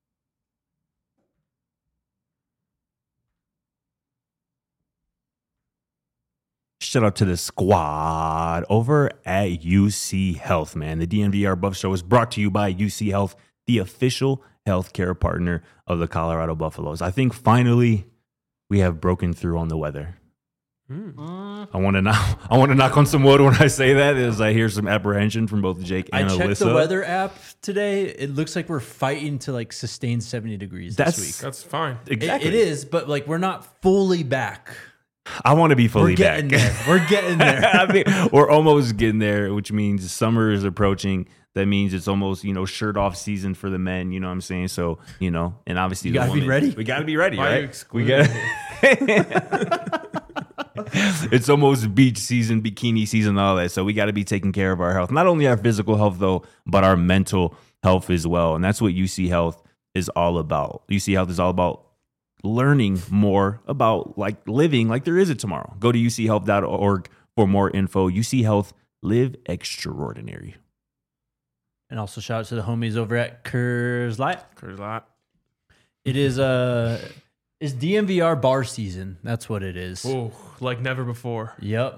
[SPEAKER 3] Shout out to the squad over at UC Health, man. The DNVR Buff Show is brought to you by UC Health, the official healthcare partner of the Colorado Buffaloes. I think finally we have broken through on the weather. I want to knock on some wood when I say that, as I hear some apprehension from both Jake and Alyssa.
[SPEAKER 1] I checked the weather app today. It looks like we're fighting to sustain 70 degrees this week.
[SPEAKER 2] That's fine.
[SPEAKER 3] Exactly.
[SPEAKER 1] It is, but we're not fully back.
[SPEAKER 3] I want to be fully back.
[SPEAKER 1] We're getting there.
[SPEAKER 3] I mean, we're almost getting there, which means summer is approaching. That means it's almost, shirt off season for the men. You know what I'm saying? So, and obviously
[SPEAKER 1] you gotta be ready.
[SPEAKER 3] We gotta be ready,
[SPEAKER 2] Why
[SPEAKER 3] right? We got. It's almost beach season, bikini season, all that. So we got to be taking care of our health. Not only our physical health, though, but our mental health as well. And that's what UC Health is all about. UC Health is all about learning more about living like there is a tomorrow. Go to uchealth.org for more info. UC Health, live extraordinary.
[SPEAKER 1] And also shout out to the homies over at Coors Light.
[SPEAKER 2] Coors Light.
[SPEAKER 1] It is it's DNVR bar season. That's what it is.
[SPEAKER 2] Oh, like never before.
[SPEAKER 1] Yep.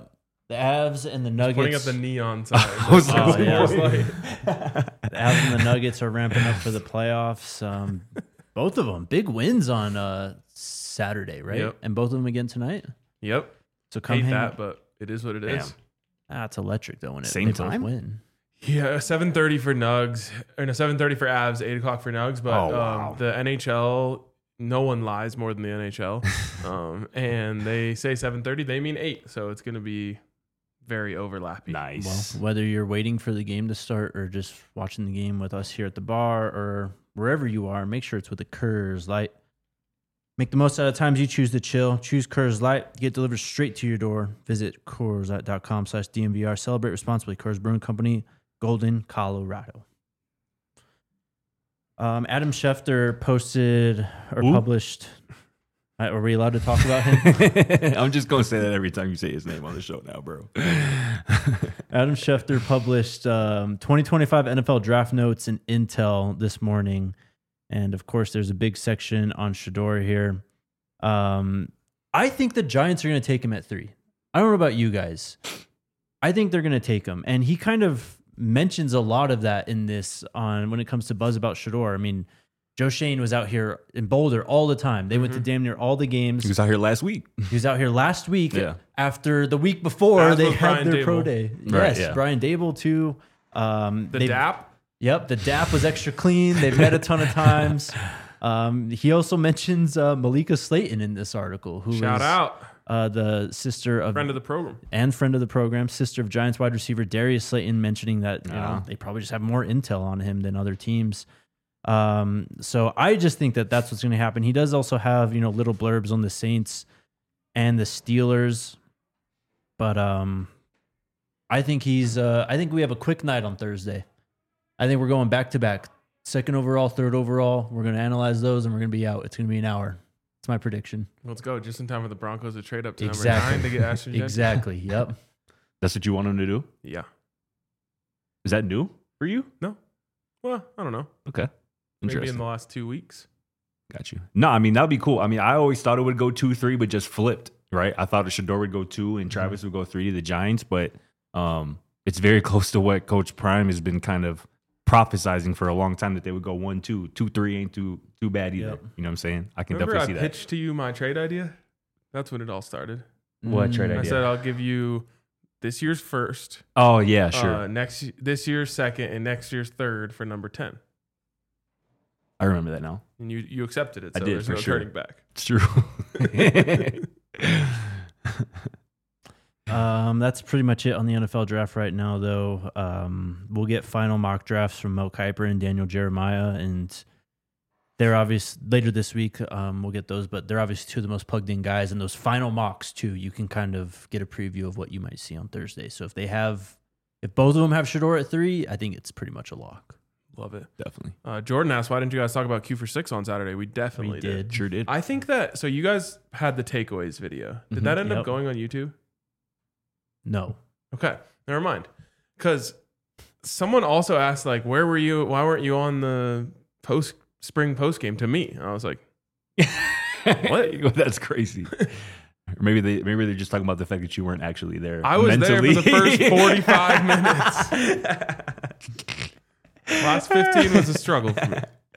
[SPEAKER 1] The Avs and the Nuggets.
[SPEAKER 2] Pointing at the neon sign.
[SPEAKER 3] I was like,
[SPEAKER 1] Oh, yeah.
[SPEAKER 2] Light.
[SPEAKER 1] The Avs and the Nuggets are ramping up for the playoffs. Both of them big wins on Saturday, right?
[SPEAKER 2] Yep.
[SPEAKER 1] And both of them again tonight.
[SPEAKER 2] Yep.
[SPEAKER 1] So come
[SPEAKER 2] Hate
[SPEAKER 1] hang.
[SPEAKER 2] that, but it is what it is.
[SPEAKER 3] Damn.
[SPEAKER 1] It's electric though when
[SPEAKER 3] Same
[SPEAKER 1] they
[SPEAKER 3] time?
[SPEAKER 1] both win.
[SPEAKER 2] Yeah, 7:30 for Nugs, or no, 7:30 for Avs, 8 o'clock for Nugs. But
[SPEAKER 3] Oh, wow.
[SPEAKER 2] the NHL, no one lies more than the NHL, and they say 7:30, they mean 8, so it's going to be very overlappy.
[SPEAKER 3] Nice.
[SPEAKER 1] Well, whether you're waiting for the game to start or just watching the game with us here at the bar or wherever you are, make sure it's with a Coors Light. Make the most out of times you choose to chill. Choose Coors Light. Get delivered straight to your door. Visit CoorsLight.com/DNVR. Celebrate responsibly. Coors Brewing Company, Golden, Colorado. Adam Schefter posted or
[SPEAKER 3] Who?
[SPEAKER 1] published. Are we allowed to talk about him?
[SPEAKER 3] I'm just gonna say that every time you say his name on the show now, bro.
[SPEAKER 1] Adam Schefter published 2025 NFL draft notes and intel this morning. And of course, there's a big section on Shedeur here. I think the Giants are going to take him at 3. I don't know about you guys. I think they're going to take him. And he kind of mentions a lot of that in this on when it comes to buzz about Shedeur. I mean, Joe Shane was out here in Boulder all the time. They went to damn near all the games.
[SPEAKER 3] He was out here last week.
[SPEAKER 1] He was out here last week
[SPEAKER 3] Yeah.
[SPEAKER 1] after the week before
[SPEAKER 2] As
[SPEAKER 1] they
[SPEAKER 2] was
[SPEAKER 1] had
[SPEAKER 2] Brian
[SPEAKER 1] their pro
[SPEAKER 2] Dable.
[SPEAKER 1] day.
[SPEAKER 3] Right,
[SPEAKER 1] Yes,
[SPEAKER 3] yeah.
[SPEAKER 1] Brian Dable too.
[SPEAKER 2] The DAP,
[SPEAKER 1] Yep, the DAP was extra clean. They've met a ton of times. He also mentions Malika Slayton in this article, who
[SPEAKER 2] shout
[SPEAKER 1] is
[SPEAKER 2] out,
[SPEAKER 1] the sister of
[SPEAKER 2] friend of the program.
[SPEAKER 1] and friend of the program, sister of Giants wide receiver Darius Slayton, mentioning that you know
[SPEAKER 3] Yeah.
[SPEAKER 1] they probably just have more intel on him than other teams. So I just think that that's what's going to happen. He does also have little blurbs on the Saints and the Steelers, but I think I think we have a quick night on Thursday. I think we're going back to back, 2nd overall, 3rd overall. We're going to analyze those and we're going to be out. It's going to be an hour. It's my prediction.
[SPEAKER 2] Let's go, just in time for the Broncos to trade up to
[SPEAKER 1] Exactly.
[SPEAKER 2] number 9 to get Ashton Jenkins.
[SPEAKER 1] Exactly. Yep.
[SPEAKER 3] That's what you want him to do?
[SPEAKER 2] Yeah.
[SPEAKER 3] Is that new for you?
[SPEAKER 2] Well, I don't know.
[SPEAKER 3] Okay.
[SPEAKER 2] Maybe
[SPEAKER 3] Interesting.
[SPEAKER 2] in the last 2 weeks.
[SPEAKER 3] Got you. No, I mean, that'd be cool. I mean, I always thought it would go 2-3, but just flipped, right? I thought Shedeur would go 2 and Travis would go 3 to the Giants, but it's very close to what Coach Prime has been kind of prophesizing for a long time, that they would go 1-2. 2-3 ain't too bad either.
[SPEAKER 1] Yep.
[SPEAKER 3] You know what I'm saying? I can
[SPEAKER 2] Remember
[SPEAKER 3] definitely
[SPEAKER 2] I
[SPEAKER 3] see that.
[SPEAKER 2] pitched to you my trade idea? That's when it all started.
[SPEAKER 3] What trade
[SPEAKER 2] I
[SPEAKER 3] idea?
[SPEAKER 2] said I'll give you this year's first,
[SPEAKER 3] Oh, yeah, sure.
[SPEAKER 2] this year's second, and next year's third for number 10.
[SPEAKER 3] I remember that now.
[SPEAKER 2] And you accepted it,
[SPEAKER 3] I
[SPEAKER 2] so
[SPEAKER 3] did,
[SPEAKER 2] there's
[SPEAKER 3] for
[SPEAKER 2] no
[SPEAKER 3] sure.
[SPEAKER 2] turning back.
[SPEAKER 3] It's true.
[SPEAKER 1] That's pretty much it on the NFL draft right now, though. We'll get final mock drafts from Mel Kiper and Daniel Jeremiah, and they're obvious later this week. We'll get those, but they're obviously two of the most plugged in guys. And those final mocks too, you can kind of get a preview of what you might see on Thursday. So if both of them have Shedeur at 3, I think it's pretty much a lock.
[SPEAKER 2] Love it.
[SPEAKER 3] Definitely.
[SPEAKER 2] Jordan asked, why didn't you guys talk about Q for 6 on Saturday? We definitely
[SPEAKER 1] We
[SPEAKER 2] did.
[SPEAKER 1] did.
[SPEAKER 3] Sure did.
[SPEAKER 2] I think that, so you guys had the takeaways video. Did
[SPEAKER 3] Mhm.
[SPEAKER 2] that end
[SPEAKER 1] Yep.
[SPEAKER 2] up going on YouTube?
[SPEAKER 1] No.
[SPEAKER 2] Okay, never mind. Because someone also asked, like, where were you? Why weren't you on the spring post game to me? And I was like,
[SPEAKER 3] What? That's crazy. Or maybe they're just talking about the fact that you weren't actually there.
[SPEAKER 2] I was
[SPEAKER 3] mentally.
[SPEAKER 2] there for the first 45 minutes. Last 15 was a struggle for me.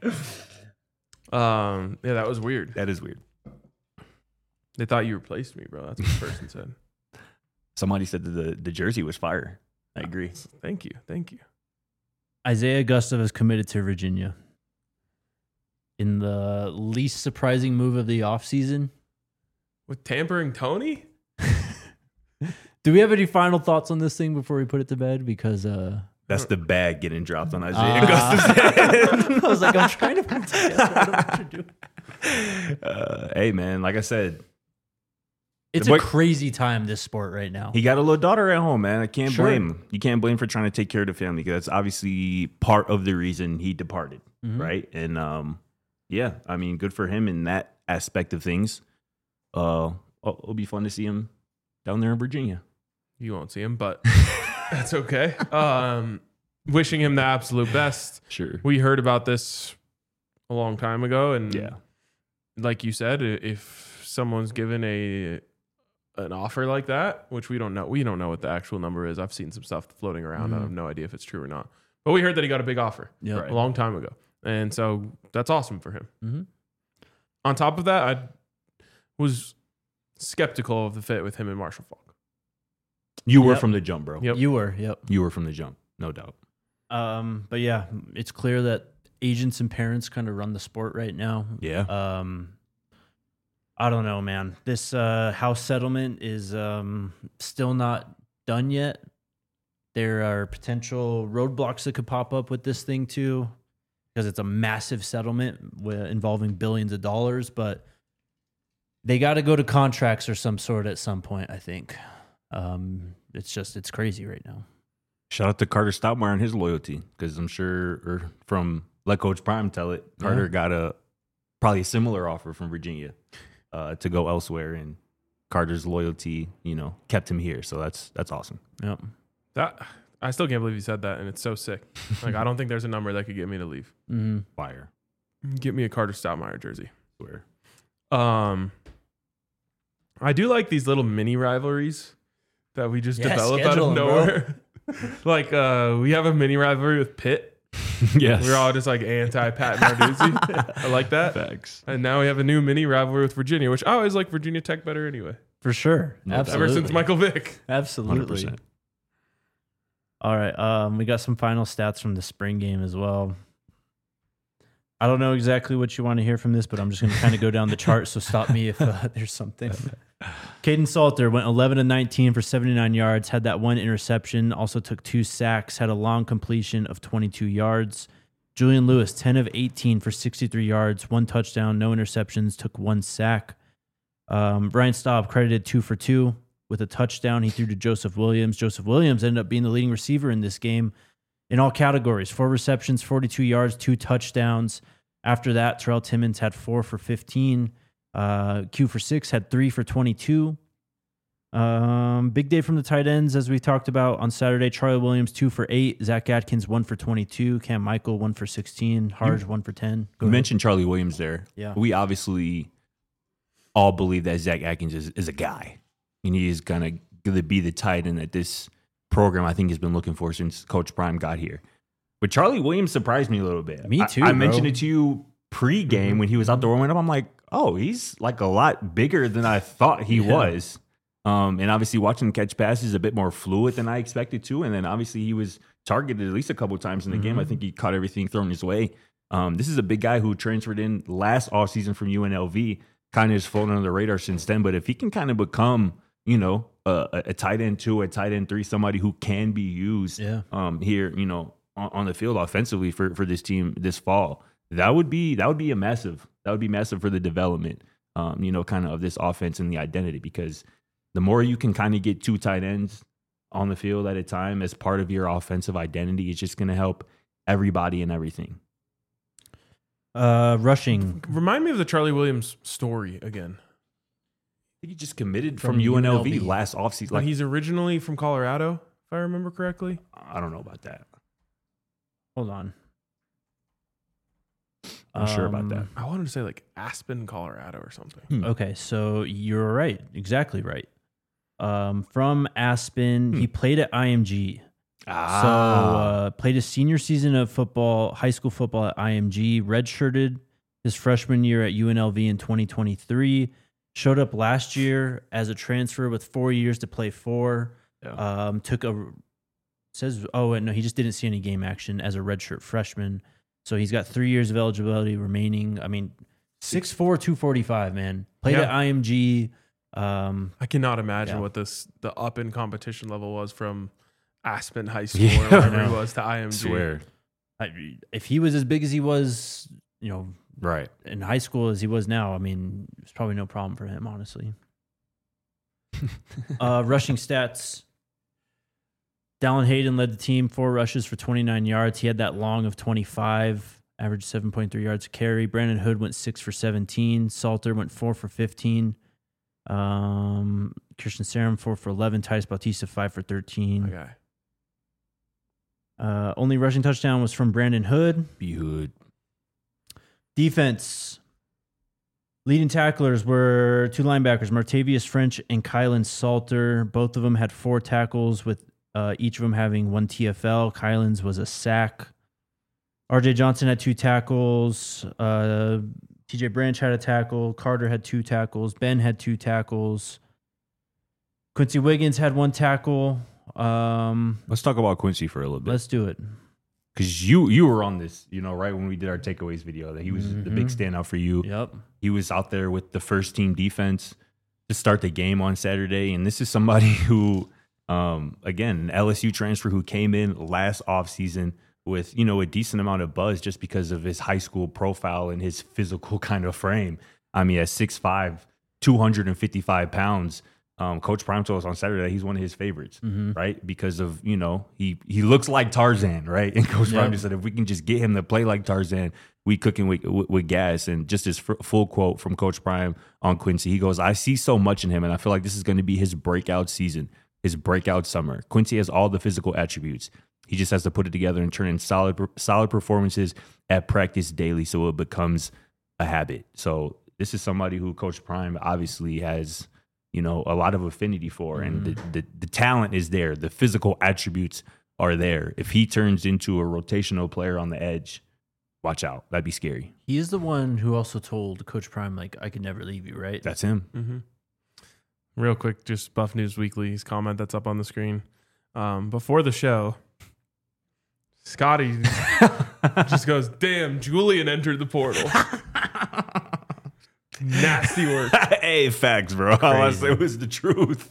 [SPEAKER 2] Yeah, that was weird.
[SPEAKER 3] That is weird.
[SPEAKER 2] They thought you replaced me, bro. That's what the person said.
[SPEAKER 3] Somebody said that the jersey was fire. I agree.
[SPEAKER 2] Thank you.
[SPEAKER 1] Isaiah Gustav is committed to Virginia. In the least surprising move of the offseason.
[SPEAKER 2] With tampering Tony?
[SPEAKER 1] Do we have any final thoughts on this thing before we put it to bed? Because
[SPEAKER 3] That's the bag getting dropped on Isaiah Gustafson.
[SPEAKER 1] I was like, I'm trying to put it together. I don't know what you're doing.
[SPEAKER 3] Hey, man, like I said,
[SPEAKER 1] It's a crazy time, this sport right now.
[SPEAKER 3] he got a little daughter at home, man. I can't
[SPEAKER 1] Sure.
[SPEAKER 3] blame him. You can't blame him for trying to take care of the family, because that's obviously part of the reason he departed,
[SPEAKER 1] Mhm.
[SPEAKER 3] right? And yeah, I mean, good for him in that aspect of things. It'll be fun to see him down there in Virginia.
[SPEAKER 2] You won't see him, but that's okay. Wishing him the absolute best.
[SPEAKER 3] Sure.
[SPEAKER 2] We heard about this a long time ago, and
[SPEAKER 3] Yeah.
[SPEAKER 2] like you said, if someone's given a an offer like that, which we don't know. We don't know what the actual number is. I've seen some stuff floating around. I have no idea if it's true or not. But we heard that he got a big offer
[SPEAKER 1] Yep.
[SPEAKER 2] a long time ago. And so that's awesome for him.
[SPEAKER 1] Mm-hmm.
[SPEAKER 2] On top of that, I was skeptical of the fit with him and Marshall Falk.
[SPEAKER 3] You were
[SPEAKER 1] Yep.
[SPEAKER 3] from the jump, bro.
[SPEAKER 2] Yep.
[SPEAKER 1] You were, yep.
[SPEAKER 3] You were from the jump, no doubt.
[SPEAKER 1] But yeah, it's clear that agents and parents kind of run the sport right now.
[SPEAKER 3] Yeah.
[SPEAKER 1] I don't know, man. This house settlement is still not done yet. There are potential roadblocks that could pop up with this thing too, because it's a massive settlement involving billions of dollars. But they got to go to contracts or some sort at some point, I think. It's crazy right now.
[SPEAKER 3] Shout out to Carter Stoutmeyer and his loyalty, because I'm sure, or from Let Coach Prime tell it, Carter got probably a similar offer from Virginia to go elsewhere, and Carter's loyalty, kept him here. So that's awesome.
[SPEAKER 1] Yep.
[SPEAKER 2] That I still can't believe you said that, and it's so sick. Like, I don't think there's a number that could get me to leave.
[SPEAKER 1] Mm-hmm.
[SPEAKER 3] Fire.
[SPEAKER 2] Get me a Carter Stoutmeyer jersey.
[SPEAKER 3] Swear.
[SPEAKER 2] I do like these little mini rivalries that we just
[SPEAKER 1] Yeah,
[SPEAKER 2] develop out
[SPEAKER 1] schedule
[SPEAKER 2] of
[SPEAKER 1] 'em, bro.
[SPEAKER 2] nowhere. Like, we have a mini rivalry with Pitt.
[SPEAKER 3] Yes.
[SPEAKER 2] We're all just like anti-Pat Narduzzi. I like that.
[SPEAKER 3] Facts.
[SPEAKER 2] And now we have a new mini rivalry with Virginia, which I always like Virginia Tech better anyway.
[SPEAKER 1] For sure.
[SPEAKER 3] No doubt.
[SPEAKER 1] Absolutely.
[SPEAKER 2] Ever since Michael Vick.
[SPEAKER 1] Absolutely.
[SPEAKER 3] 100%.
[SPEAKER 1] All right. We got some final stats from the spring game as well. I don't know exactly what you want to hear from this, but I'm just going to kind of go down the chart. So stop me if there's something. Caden Salter went 11-19 for 79 yards, had that one interception, also took 2 sacks, had a long completion of 22 yards. Julian Lewis, 10 of 18 for 63 yards, 1 touchdown, no interceptions, took 1 sack. Brian Staub credited 2 for 2 with a touchdown. He threw to Joseph Williams. Joseph Williams ended up being the leading receiver in this game in all categories. 4 receptions, 42 yards, 2 touchdowns. After that, Terrell Timmons had 4 for 15. Q for 6 had 3 for 22. Big day from the tight ends, as we talked about on Saturday. Charlie Williams 2 for 8. Zach Atkins 1 for 22. Cam Michael 1 for 16. Harge 1 for 10. Go
[SPEAKER 3] You
[SPEAKER 1] ahead.
[SPEAKER 3] mentioned Charlie Williams there.
[SPEAKER 1] Yeah.
[SPEAKER 3] We obviously all believe that Zach Atkins is a guy. And he is going to be the tight end that this program, I think, has been looking for since Coach Prime got here. But Charlie Williams surprised me a little bit.
[SPEAKER 1] Me too,
[SPEAKER 3] I
[SPEAKER 1] bro.
[SPEAKER 3] mentioned it to you pre-game when he was out there warming up. I'm like, oh, he's like a lot bigger than I thought he was. And obviously watching him catch passes a bit more fluid than I expected to. And then obviously he was targeted at least a couple times in the game. I think he caught everything thrown his way. This is a big guy who transferred in last offseason from UNLV, kind of has flown under the radar since then. But if he can kind of become, a tight end 2, a tight end 3, somebody who can be used here, on the field offensively for this team this fall, that would be massive for the development, kind of this offense and the identity, because the more you can kind of get 2 tight ends on the field at a time as part of your offensive identity, it's just going to help everybody and everything.
[SPEAKER 1] Rushing.
[SPEAKER 2] Remind me of the Charlie Williams story again.
[SPEAKER 3] I think he just committed
[SPEAKER 1] From
[SPEAKER 3] from UNLV,
[SPEAKER 1] UNLV.
[SPEAKER 3] last offseason.
[SPEAKER 2] Like, he's originally from Colorado, if I remember correctly.
[SPEAKER 3] I don't know about that.
[SPEAKER 1] Hold on.
[SPEAKER 3] I'm sure about that.
[SPEAKER 2] I wanted to say like Aspen, Colorado or something.
[SPEAKER 1] Okay, so you're right. Exactly right. From Aspen, he played at IMG. So played his senior season of football, high school football at IMG, redshirted his freshman year at UNLV in 2023, showed up last year as a transfer with 4 years to play 4.
[SPEAKER 3] Yeah.
[SPEAKER 1] He just didn't see any game action as a redshirt freshman. So he's got 3 years of eligibility remaining. I mean, 6'4", 245, man. Played at IMG.
[SPEAKER 2] I cannot imagine
[SPEAKER 1] Yeah.
[SPEAKER 2] what the up in competition level was from Aspen High School
[SPEAKER 3] Yeah.
[SPEAKER 2] or wherever he was to IMG.
[SPEAKER 3] Swear.
[SPEAKER 1] If he was as big as he was,
[SPEAKER 3] Right.
[SPEAKER 1] in high school as he was now, I mean, it's probably no problem for him, honestly. Rushing stats. Dallin Hayden led the team, 4 rushes for 29 yards. He had that long of 25, averaged 7.3 yards a carry. Brandon Hood went 6 for 17. Salter went 4 for 15. Christian Sarum 4 for 11. Titus Bautista 5 for 13.
[SPEAKER 2] Okay.
[SPEAKER 1] Only rushing touchdown was from Brandon Hood.
[SPEAKER 3] Be hood.
[SPEAKER 1] Defense. Leading tacklers were 2 linebackers, Martavius French and Kylan Salter. Both of them had 4 tackles, with each of them having 1 TFL. Kylan's was a sack. RJ Johnson had 2 tackles. TJ Branch had a tackle. Carter had 2 tackles. Ben had 2 tackles. Quincy Wiggins had 1 tackle.
[SPEAKER 3] Let's talk about Quincy for a little bit.
[SPEAKER 1] Let's do it.
[SPEAKER 3] Because you were on this, right when we did our takeaways video, that he was the big standout for you.
[SPEAKER 1] Yep.
[SPEAKER 3] He was out there with the first team defense to start the game on Saturday. And this is somebody who, again, an LSU transfer who came in last offseason with, a decent amount of buzz just because of his high school profile and his physical kind of frame. I mean, at 6'5", 255 pounds, Coach Prime told us on Saturday that he's one of his favorites, right? Because of, he looks like Tarzan, right? And Coach Prime just said, if we can just get him to play like Tarzan, we cooking with gas. And just his full quote from Coach Prime on Quincy, he goes, I see so much in him, and I feel like this is going to be his breakout season, his breakout summer. Quincy has all the physical attributes. He just has to put it together and turn in solid performances at practice daily so it becomes a habit. So this is somebody who Coach Prime obviously has a lot of affinity for, and the talent is there. The physical attributes are there. If he turns into a rotational player on the edge, watch out. That'd be scary.
[SPEAKER 1] He is the one who also told Coach Prime, I could never leave you, right?
[SPEAKER 3] That's him.
[SPEAKER 2] Mm-hmm. Real quick, just Buff News Weekly's comment that's up on the screen. Before the show, Scotty just goes, damn, Julian entered the portal. Nasty work.
[SPEAKER 3] Hey, facts, bro. All I said was the truth.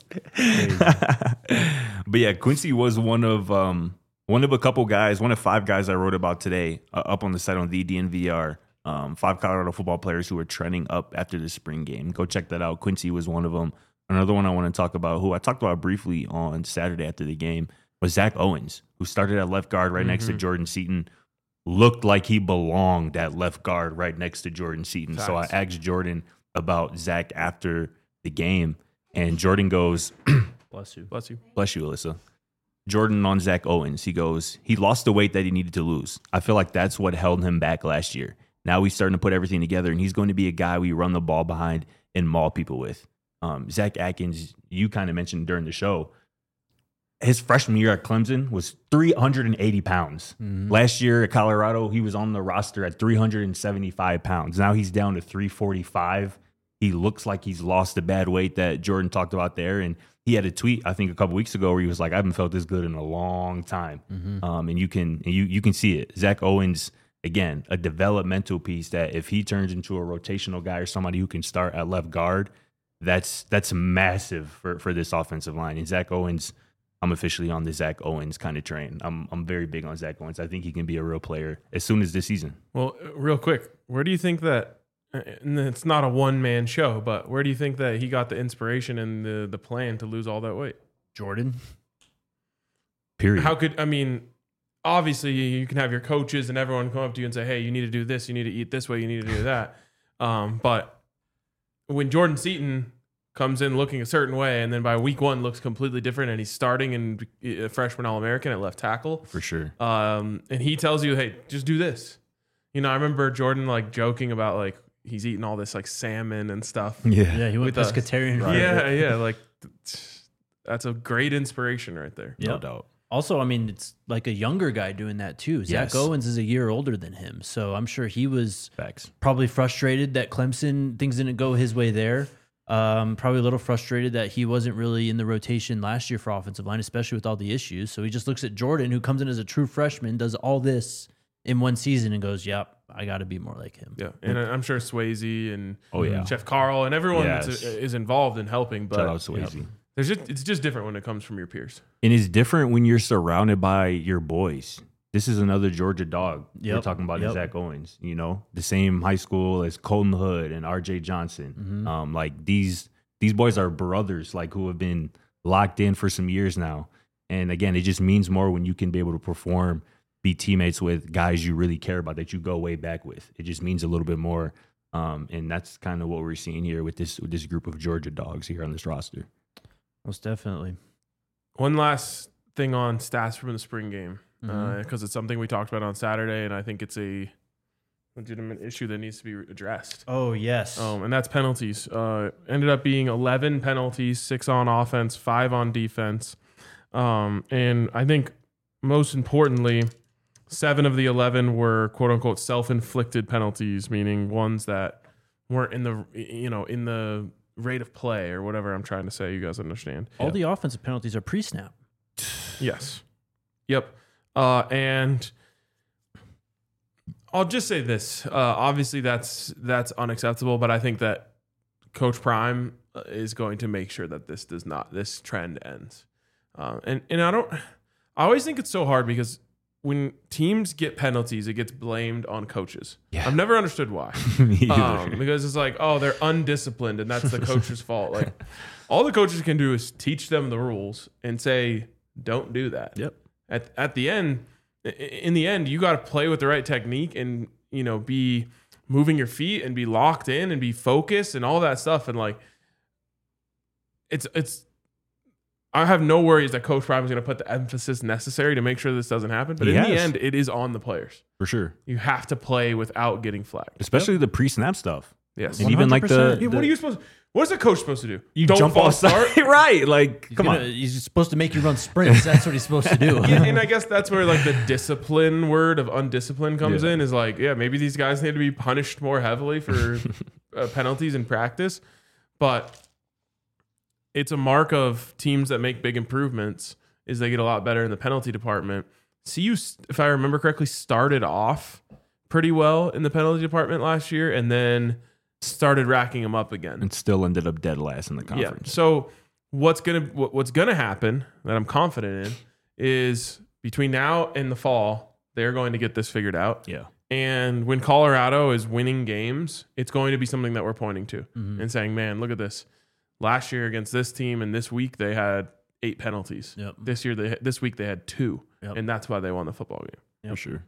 [SPEAKER 3] But yeah, Quincy was one of a couple guys, one of 5 guys I wrote about today up on the site on the DNVR. 5 Colorado football players who were trending up after the spring game. Go check that out. Quincy was one of them. Another one I want to talk about, who I talked about briefly on Saturday after the game, was Zach Owens, who started at left guard right next to Jordan Seaton. Looked like he belonged at left guard right next to Jordan Seaton.
[SPEAKER 2] Facts.
[SPEAKER 3] So I asked Jordan about Zach after the game, and Jordan goes,
[SPEAKER 1] Bless you.
[SPEAKER 2] Bless you.
[SPEAKER 3] bless you, Alyssa. Jordan on Zach Owens, he goes, he lost the weight that he needed to lose. I feel like that's what held him back last year. Now he's starting to put everything together, and he's going to be a guy we run the ball behind and maul people with. Zach Atkins, you kind of mentioned during the show, his freshman year at Clemson was 380 pounds. Last year at Colorado, he was on the roster at 375 pounds. Now he's down to 345. He looks like he's lost the bad weight that Jordan talked about there. And he had a tweet, I think, a couple weeks ago where he was like, I haven't felt this good in a long time. And you can see it. Zach Owens, again, a developmental piece that if he turns into a rotational guy or somebody who can start at left guard, that's massive for this offensive line. And Zach Owens, I'm officially on the Zach Owens kind of train. I'm very big on Zach Owens. I think he can be a real player as soon as this season.
[SPEAKER 2] Well, real quick, where do you think that, and it's not a one-man show, but where do you think that he got the inspiration and the plan to lose all that weight?
[SPEAKER 1] Jordan.
[SPEAKER 3] Period.
[SPEAKER 2] Obviously you can have your coaches and everyone come up to you and say, hey, you need to do this, you need to eat this way, you need to do that. But when Jordan Seaton comes in looking a certain way, and then by week 1 looks completely different, and he's starting in a freshman All-American at left tackle.
[SPEAKER 3] For sure.
[SPEAKER 2] And he tells you, hey, just do this. I remember Jordan joking about he's eating all this salmon and stuff.
[SPEAKER 1] Yeah, he went
[SPEAKER 2] With us.
[SPEAKER 1] pescatarian.
[SPEAKER 2] Yeah. That's a great inspiration right there.
[SPEAKER 3] No
[SPEAKER 1] Yep.
[SPEAKER 3] doubt.
[SPEAKER 1] Also, it's like a younger guy doing that too. Zach
[SPEAKER 3] Yes.
[SPEAKER 1] Owens is a year older than him. So I'm sure he was
[SPEAKER 3] Facts.
[SPEAKER 1] probably frustrated that Clemson, things didn't go his way there. Probably a little frustrated that he wasn't really in the rotation last year for offensive line, especially with all the issues. So he just looks at Jordan, who comes in as a true freshman, does all this in one season and goes, yep, I got to be more like him.
[SPEAKER 2] Yeah, and I'm sure Swayze and
[SPEAKER 3] yeah.
[SPEAKER 2] Chef Carl and everyone
[SPEAKER 3] Yes.
[SPEAKER 2] is involved in helping. But
[SPEAKER 3] Shout out Swayze.
[SPEAKER 2] it's just different when it comes from your peers.
[SPEAKER 3] And it's different when you're surrounded by your boys. This is another Georgia dog. We're
[SPEAKER 1] Yep.
[SPEAKER 3] talking about
[SPEAKER 1] Yep.
[SPEAKER 3] Zach Owens, the same high school as Colton Hood and RJ Johnson. These boys are brothers, who have been locked in for some years now. And again, it just means more when you can be able to perform, be teammates with guys you really care about, that you go way back with. It just means a little bit more. And that's kind of what we're seeing here with this group of Georgia dogs here on this roster.
[SPEAKER 1] Most definitely.
[SPEAKER 2] One last thing on stats from the spring game, because it's something we talked about on Saturday, and I think it's a legitimate issue that needs to be addressed.
[SPEAKER 1] Oh, yes.
[SPEAKER 2] And that's penalties. Ended up being 11 penalties, 6 on offense, 5 on defense. And I think most importantly, 7 of the 11 were quote unquote self-inflicted penalties, meaning ones that weren't in the rate of play or whatever I'm trying to say. You guys understand?
[SPEAKER 1] All the offensive penalties are pre-snap.
[SPEAKER 2] Yes. Yep. And I'll just say this. Obviously, that's unacceptable, but I think that Coach Prime is going to make sure that this trend ends. And I always think it's so hard because when teams get penalties, it gets blamed on coaches.
[SPEAKER 3] Yeah.
[SPEAKER 2] I've never understood why.
[SPEAKER 3] Me either.
[SPEAKER 2] Because it's like, oh, they're undisciplined and that's the coach's fault. Like, all the coaches can do is teach them the rules and say, don't do that.
[SPEAKER 1] Yep.
[SPEAKER 2] At the end, in the end, you got to play with the right technique and, be moving your feet and be locked in and be focused and all that stuff. And like, I have no worries that Coach Prime is going to put the emphasis necessary to make sure this doesn't happen. But in the end, it is on the players.
[SPEAKER 3] For sure.
[SPEAKER 2] You have to play without getting flagged.
[SPEAKER 3] Especially the pre-snap stuff.
[SPEAKER 2] Yes.
[SPEAKER 3] And even like
[SPEAKER 1] 100%.
[SPEAKER 2] What is a coach supposed to do?
[SPEAKER 3] You
[SPEAKER 2] Don't
[SPEAKER 3] jump
[SPEAKER 2] false
[SPEAKER 3] off
[SPEAKER 2] start?
[SPEAKER 3] right. Like, come on.
[SPEAKER 1] He's supposed to make you run sprints. That's what he's supposed to do.
[SPEAKER 2] Yeah, and I guess that's where like the discipline word of undisciplined comes in, is like, yeah, maybe these guys need to be punished more heavily for penalties in practice. But it's a mark of teams that make big improvements is they get a lot better in the penalty department. CU, if I remember correctly, started off pretty well in the penalty department last year and then started racking them up again.
[SPEAKER 3] And still ended up dead last in the conference.
[SPEAKER 2] Yeah. So what's gonna happen that I'm confident in is between now and the fall, they're going to get this figured out.
[SPEAKER 3] Yeah.
[SPEAKER 2] And when Colorado is winning games, it's going to be something that we're pointing to and saying, man, look at this. Last year against this team and this week they had 8 penalties.
[SPEAKER 1] Yep.
[SPEAKER 2] This week they had 2,
[SPEAKER 1] Yep.
[SPEAKER 2] and that's why they won the football game.
[SPEAKER 1] Yep.
[SPEAKER 3] For sure.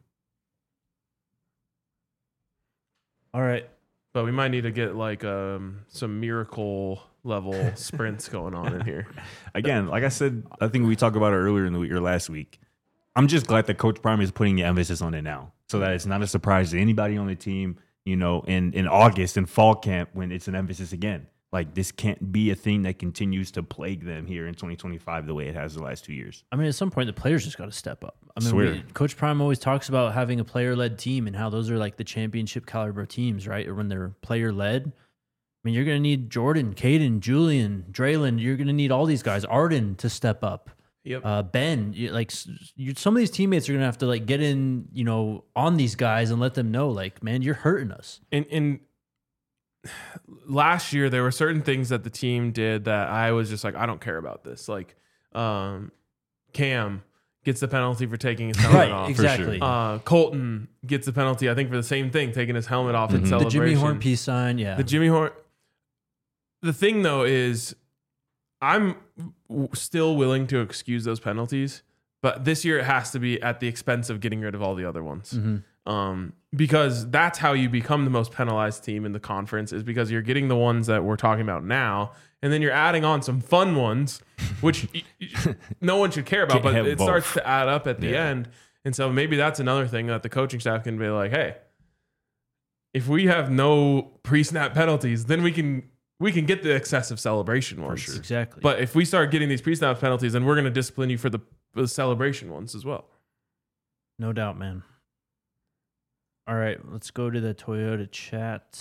[SPEAKER 1] All right.
[SPEAKER 2] But we might need to get like some miracle level sprints going on in here.
[SPEAKER 3] Again, like I said, I think we talked about it earlier in the week or last week. I'm just glad that Coach Prime is putting the emphasis on it now, so that it's not a surprise to anybody on the team. In August in fall camp when it's an emphasis again. Like, this can't be a thing that continues to plague them here in 2025 the way it has the last 2 years.
[SPEAKER 1] I mean, at some point, the players just got to step up. I mean,
[SPEAKER 3] Swear.
[SPEAKER 1] Coach Prime always talks about having a player-led team and how those are like the championship caliber teams, right? Or when they're player-led. I mean, you're going to need Jordan, Caden, Julian, Draylon. You're going to need all these guys. Arden to step up.
[SPEAKER 2] Yep.
[SPEAKER 1] Ben, some of these teammates are going to have to like get in, on these guys and let them know, like, man, you're hurting us.
[SPEAKER 2] And last year there were certain things that the team did that I was just like, I don't care about this. Like, Cam gets the penalty for taking his helmet off.
[SPEAKER 1] Exactly.
[SPEAKER 2] Colton gets the penalty, I think, for the same thing, taking his helmet off in
[SPEAKER 1] The
[SPEAKER 2] celebration.
[SPEAKER 1] Jimmy Horn peace sign, yeah.
[SPEAKER 2] The Jimmy Horn. The thing though is, I'm still willing to excuse those penalties, but this year it has to be at the expense of getting rid of all the other ones.
[SPEAKER 1] Mm-hmm.
[SPEAKER 2] Because that's how you become the most penalized team in the conference, is because you're getting the ones that we're talking about now, and then you're adding on some fun ones, which no one should care about, but it starts to add up at the end. And so maybe that's another thing that the coaching staff can be like, hey, if we have no pre-snap penalties, then we can get the excessive celebration ones.
[SPEAKER 1] Sure. Exactly.
[SPEAKER 2] But if we start getting these pre-snap penalties, then we're going to discipline you for the celebration ones as well.
[SPEAKER 1] No doubt, man. All right, let's go to the Toyota chat.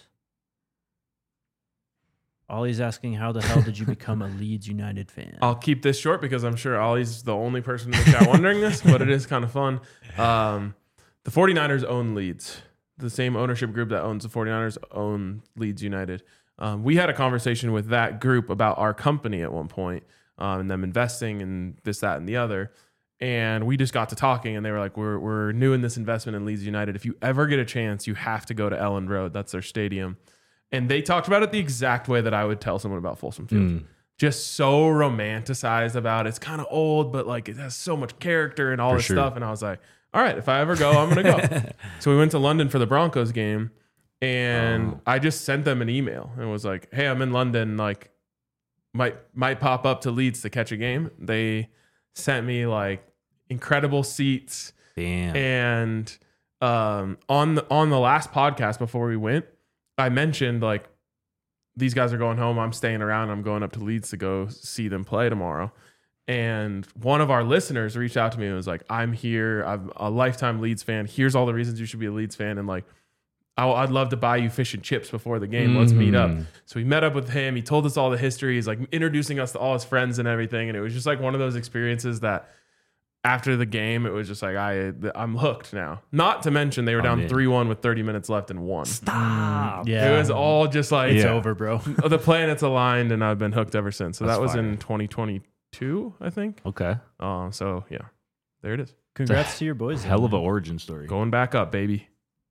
[SPEAKER 1] Ollie's asking, how the hell did you become a Leeds United fan?
[SPEAKER 2] I'll keep this short because I'm sure Ollie's the only person in the chat wondering this, but it is kind of fun. The 49ers own Leeds. The same ownership group that owns the 49ers own Leeds United. We had a conversation with that group about our company at one point, and them investing and this, that, and the other. And we just got to talking, and they were like, we're new in this investment in Leeds United. If you ever get a chance, you have to go to Elland Road. That's their stadium. And they talked about it the exact way that I would tell someone about Folsom Field. Just so romanticized about it. It's kind of old, but like it has so much character and all this stuff. And I was like, all right, if I ever go, I'm going to go. So we went to London for the Broncos game, and I just sent them an email and was like, hey, I'm in London. Like, might pop up to Leeds to catch a game. They sent me like incredible seats.
[SPEAKER 3] Damn.
[SPEAKER 2] And on the last podcast before we went, I mentioned like these guys are going home. I'm staying around. I'm going up to Leeds to go see them play tomorrow. And one of our listeners reached out to me and was like, I'm here. I'm a lifetime Leeds fan. Here's all the reasons you should be a Leeds fan. And like, I'd love to buy you fish and chips before the game. Let's meet up. So we met up with him. He told us all the history. He's like introducing us to all his friends and everything. And it was just like one of those experiences that after the game, it was just like, I'm hooked now. Not to mention they were down 3-1 with 30 minutes left and won.
[SPEAKER 3] Stop.
[SPEAKER 1] Yeah.
[SPEAKER 2] It was all just like,
[SPEAKER 1] It's over, bro.
[SPEAKER 2] the planets aligned and I've been hooked ever since. So
[SPEAKER 3] That's
[SPEAKER 2] that was
[SPEAKER 3] fire.
[SPEAKER 2] in 2022, I think.
[SPEAKER 3] Okay.
[SPEAKER 2] So yeah, there it is.
[SPEAKER 1] Congrats to your boys.
[SPEAKER 3] Hell of an
[SPEAKER 1] man.
[SPEAKER 3] origin story.
[SPEAKER 2] Going back up, baby.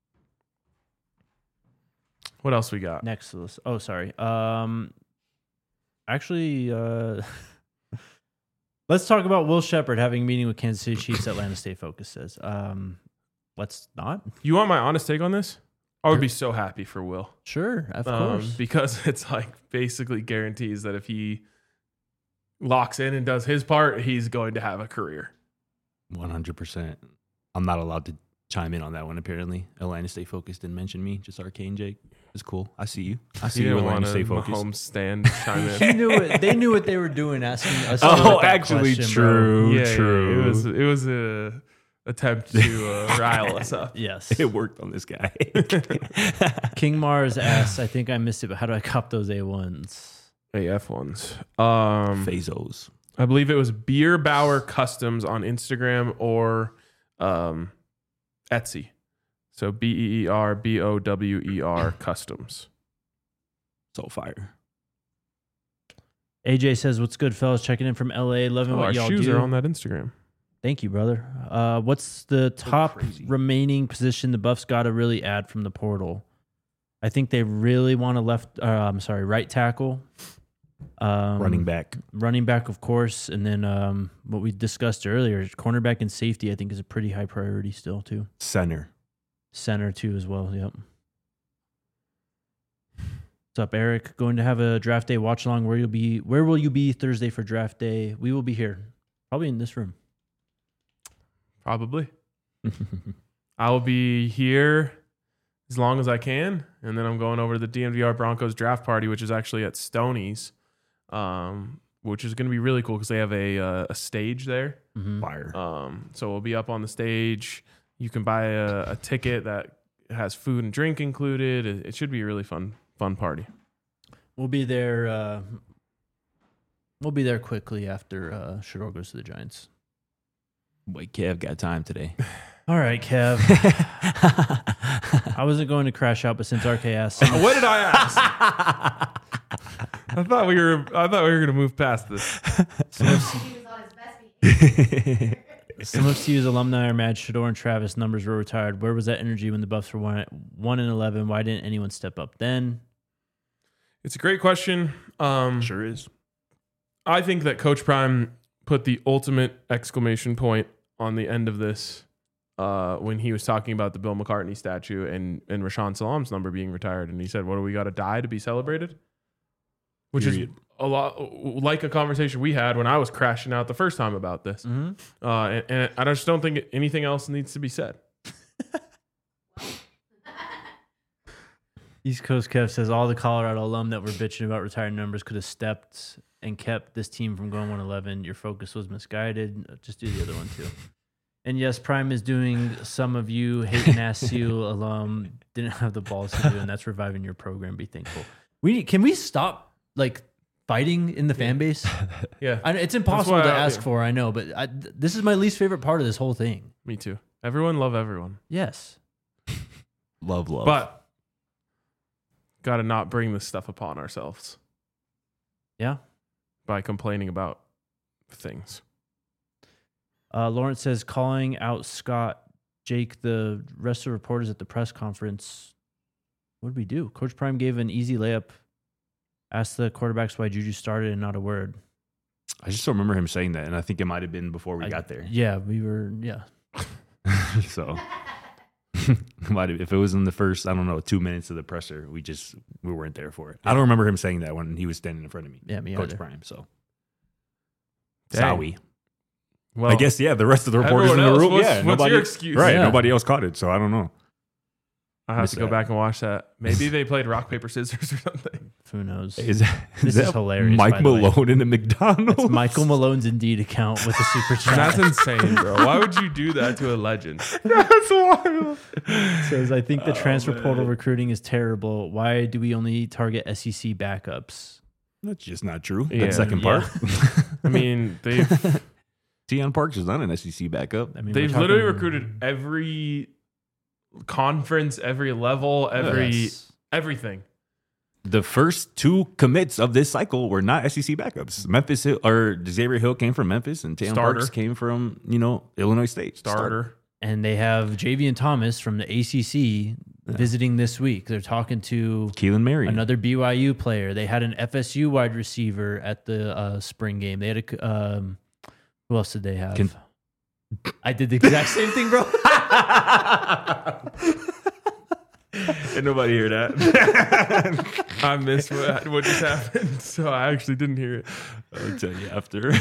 [SPEAKER 2] What else we got?
[SPEAKER 1] Next to this. Oh, sorry. Actually, let's talk about Will Shepherd having a meeting with Kansas City Chiefs. Atlanta State Focus says. Let's not.
[SPEAKER 2] You want my honest take on this? I would be so happy for Will.
[SPEAKER 1] Sure, of course.
[SPEAKER 2] Because it's like basically guarantees that if he locks in and does his part, he's going to have a career.
[SPEAKER 3] 100%. I'm not allowed to chime in on that one, apparently. Atlanta State Focus didn't mention me, just Arcane Jake. It's cool. I see you. I see
[SPEAKER 2] He
[SPEAKER 3] you,
[SPEAKER 2] didn't
[SPEAKER 3] Atlanta
[SPEAKER 2] want
[SPEAKER 3] State
[SPEAKER 2] a
[SPEAKER 3] Focus.
[SPEAKER 2] Mahomes stand chime in.
[SPEAKER 1] He knew it. They knew what they were doing. Asking us.
[SPEAKER 3] Oh,
[SPEAKER 1] that
[SPEAKER 3] actually,
[SPEAKER 1] question,
[SPEAKER 3] true.
[SPEAKER 2] Yeah,
[SPEAKER 3] True.
[SPEAKER 2] it was a attempt to rile us up.
[SPEAKER 1] Bro. Yes.
[SPEAKER 3] It worked on this guy.
[SPEAKER 1] King Mars asks, I think I missed it, but how do I cop those A1s?
[SPEAKER 2] AF ones.
[SPEAKER 3] Phazos.
[SPEAKER 2] I believe it was Beer Bauer Customs on Instagram or Etsy. So BEERBOWER Customs.
[SPEAKER 3] So fire.
[SPEAKER 1] AJ says, what's good, fellas? Checking in from LA. Loving
[SPEAKER 2] Oh,
[SPEAKER 1] what
[SPEAKER 2] our
[SPEAKER 1] y'all
[SPEAKER 2] shoes
[SPEAKER 1] do.
[SPEAKER 2] are on that Instagram.
[SPEAKER 1] Thank you, brother. What's the top
[SPEAKER 3] crazy.
[SPEAKER 1] remaining position the Buffs got to really add from the portal? I think they really want a right tackle.
[SPEAKER 3] Running back.
[SPEAKER 1] Running back, of course. And then what we discussed earlier, cornerback and safety, I think is a pretty high priority still, too.
[SPEAKER 3] Center.
[SPEAKER 1] Center, too, as well. Yep. What's up, Eric? Going to have a draft day watch along. Where will you be Thursday for draft day? We will be here. Probably in this room.
[SPEAKER 2] Probably. I will be here as long as I can. And then I'm going over to the DNVR Broncos draft party, which is actually at Stoney's, which is going to be really cool because they have a stage there.
[SPEAKER 1] Mm-hmm.
[SPEAKER 3] Fire.
[SPEAKER 2] So we'll be up on the stage. You can buy a ticket that has food and drink included. It should be a really fun party.
[SPEAKER 1] We'll be there. We'll be there quickly after Shador goes to the Giants.
[SPEAKER 3] Wait, Kev got time today.
[SPEAKER 1] All right, Kev. I wasn't going to crash out, but since RK asked,
[SPEAKER 2] What did I ask? I thought we were going to move past this.
[SPEAKER 5] He was on his best behavior.
[SPEAKER 1] some of CU's alumni are mad Shador and Travis numbers were retired. Where was that energy when the Buffs were 1-11? Why didn't anyone step up then?
[SPEAKER 2] It's a great question.
[SPEAKER 3] Sure is.
[SPEAKER 2] I think that Coach Prime put the ultimate exclamation point on the end of this when he was talking about the Bill McCartney statue and Rashawn Salam's number being retired. And he said, what do we got to die to be celebrated? Which
[SPEAKER 3] Period.
[SPEAKER 2] is a lot like a conversation we had when I was crashing out the first time about this.
[SPEAKER 1] Mm-hmm.
[SPEAKER 2] And I just don't think anything else needs to be said.
[SPEAKER 1] East Coast Kev says all the Colorado alum that were bitching about retired numbers could have stepped and kept this team from going 1-11. Your focus was misguided. Just do the other one too. And yes, Prime is doing some of you hating ass CU alum didn't have the balls to do, and that's reviving your program. Be thankful. Can we stop like fighting in the fan base?
[SPEAKER 2] Yeah,
[SPEAKER 1] It's impossible
[SPEAKER 2] why
[SPEAKER 1] to
[SPEAKER 2] I-
[SPEAKER 1] ask for. I know, but this is my least favorite part of this whole thing.
[SPEAKER 2] me too. Everyone love everyone.
[SPEAKER 1] Yes.
[SPEAKER 3] Love.
[SPEAKER 2] But got to not bring this stuff upon ourselves
[SPEAKER 1] Yeah.
[SPEAKER 2] by complaining about things.
[SPEAKER 1] Lawrence says calling out Scott, Jake, the rest of the reporters at the press conference. What did we do? Coach Prime gave an easy layup. Asked the quarterbacks why Juju started and not a word.
[SPEAKER 3] I just don't remember him saying that, and I think it might have been before we got there.
[SPEAKER 1] Yeah, we were. Yeah.
[SPEAKER 3] So if it was in the first, 2 minutes of the presser, we weren't there for it. I don't remember him saying that when he was standing in front of me.
[SPEAKER 1] Yeah, me
[SPEAKER 3] Coach
[SPEAKER 1] either.
[SPEAKER 3] Prime. So
[SPEAKER 2] Dang.
[SPEAKER 3] sorry.
[SPEAKER 2] Well,
[SPEAKER 3] I guess, yeah, the rest of the reporters in
[SPEAKER 2] everyone
[SPEAKER 3] the
[SPEAKER 2] else,
[SPEAKER 3] room.
[SPEAKER 2] what's
[SPEAKER 3] Nobody,
[SPEAKER 2] your excuse?
[SPEAKER 3] Right.
[SPEAKER 1] Yeah.
[SPEAKER 3] Nobody else caught it. So I don't know.
[SPEAKER 2] I have
[SPEAKER 3] Miss
[SPEAKER 2] to go
[SPEAKER 3] that.
[SPEAKER 2] back and watch that. Maybe they played rock, paper, scissors or something.
[SPEAKER 1] Who knows?
[SPEAKER 3] Is
[SPEAKER 1] This is hilarious,
[SPEAKER 3] Mike
[SPEAKER 1] by the way.
[SPEAKER 3] Malone in a McDonald's?
[SPEAKER 1] It's Michael Malone's Indeed account with the super chat.
[SPEAKER 2] That's insane, bro. Why would you do that to a legend?
[SPEAKER 3] That's wild.
[SPEAKER 1] Says, I think the transfer
[SPEAKER 3] man.
[SPEAKER 1] portal recruiting is terrible. Why do we only target SEC backups?
[SPEAKER 3] That's just not true.
[SPEAKER 2] Yeah.
[SPEAKER 3] That second
[SPEAKER 1] Yeah.
[SPEAKER 3] part.
[SPEAKER 2] I mean, they've
[SPEAKER 3] Deion Parks is not an SEC backup.
[SPEAKER 1] I mean,
[SPEAKER 2] they've
[SPEAKER 1] we're
[SPEAKER 2] literally
[SPEAKER 1] talking-
[SPEAKER 2] recruited every conference, every level,
[SPEAKER 1] Yes.
[SPEAKER 2] everything.
[SPEAKER 3] The first 2 commits of this cycle were not SEC backups. Memphis Hill, or Xavier Hill came from Memphis, and Deion
[SPEAKER 2] Starter.
[SPEAKER 3] Parks came from Illinois State.
[SPEAKER 2] Starter.
[SPEAKER 1] And they have Javian Thomas from the ACC visiting this week. They're talking to
[SPEAKER 3] Keelan Marion.
[SPEAKER 1] another BYU player. They had an FSU wide receiver at the spring game. They had a who else did they have? I did the exact same thing, bro.
[SPEAKER 3] Did nobody hear that?
[SPEAKER 2] I missed what just happened, so I actually didn't hear it.
[SPEAKER 3] I'll tell you after.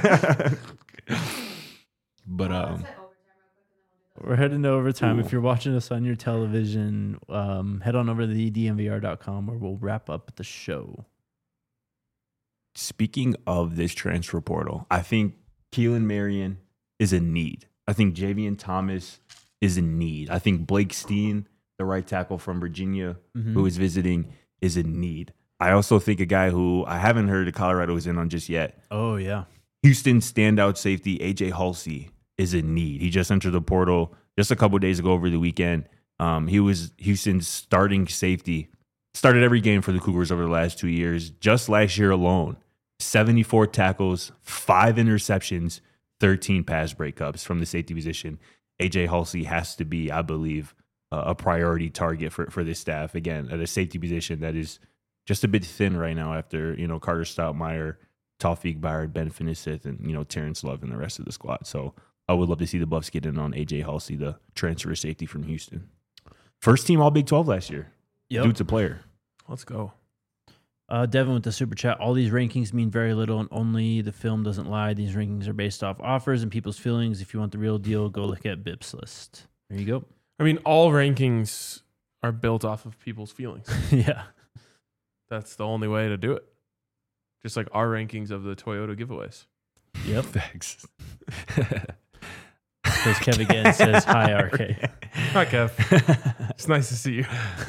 [SPEAKER 3] But
[SPEAKER 1] We're heading to overtime. If you're watching us on your television, head on over to thedmvr.com where we'll wrap up the show.
[SPEAKER 3] speaking of this transfer portal, I think Keelan Marion is a need. I think Javian Thomas is a need. I think Blake Steen, the right tackle from Virginia, who is visiting, is a need. I also think a guy who I haven't heard of Colorado is in on just yet.
[SPEAKER 1] Oh, yeah.
[SPEAKER 3] Houston standout safety AJ Halsey is a need. He just entered the portal just a couple days ago over the weekend. He was Houston's starting safety. Started every game for the Cougars over the last 2 years. Just last year alone, 74 tackles, 5 interceptions, 13 pass breakups from the safety position. AJ Halsey has to be, I believe, a priority target for this staff. Again, at a safety position that is just a bit thin right now after, Carter Stoutmeyer, Tawfiq Byard, Ben Finnissith, and, Terrence Love and the rest of the squad. So I would love to see the Buffs get in on AJ Halsey, the transfer safety from Houston. First team All Big 12 last year.
[SPEAKER 1] Yep.
[SPEAKER 3] Dude's a player.
[SPEAKER 2] Let's go.
[SPEAKER 1] Devin with the super chat. All these rankings mean very little, and only the film doesn't lie. These rankings are based off offers and people's feelings. If you want the real deal, go look at Bips list. There you go.
[SPEAKER 2] I mean, all rankings are built off of people's feelings.
[SPEAKER 1] Yeah.
[SPEAKER 2] That's the only way to do it. Just like our rankings of the Toyota giveaways.
[SPEAKER 1] Yep.
[SPEAKER 3] Thanks.
[SPEAKER 1] Because Kev again says, hi, RK.
[SPEAKER 2] Hi, Kev. It's nice to see you.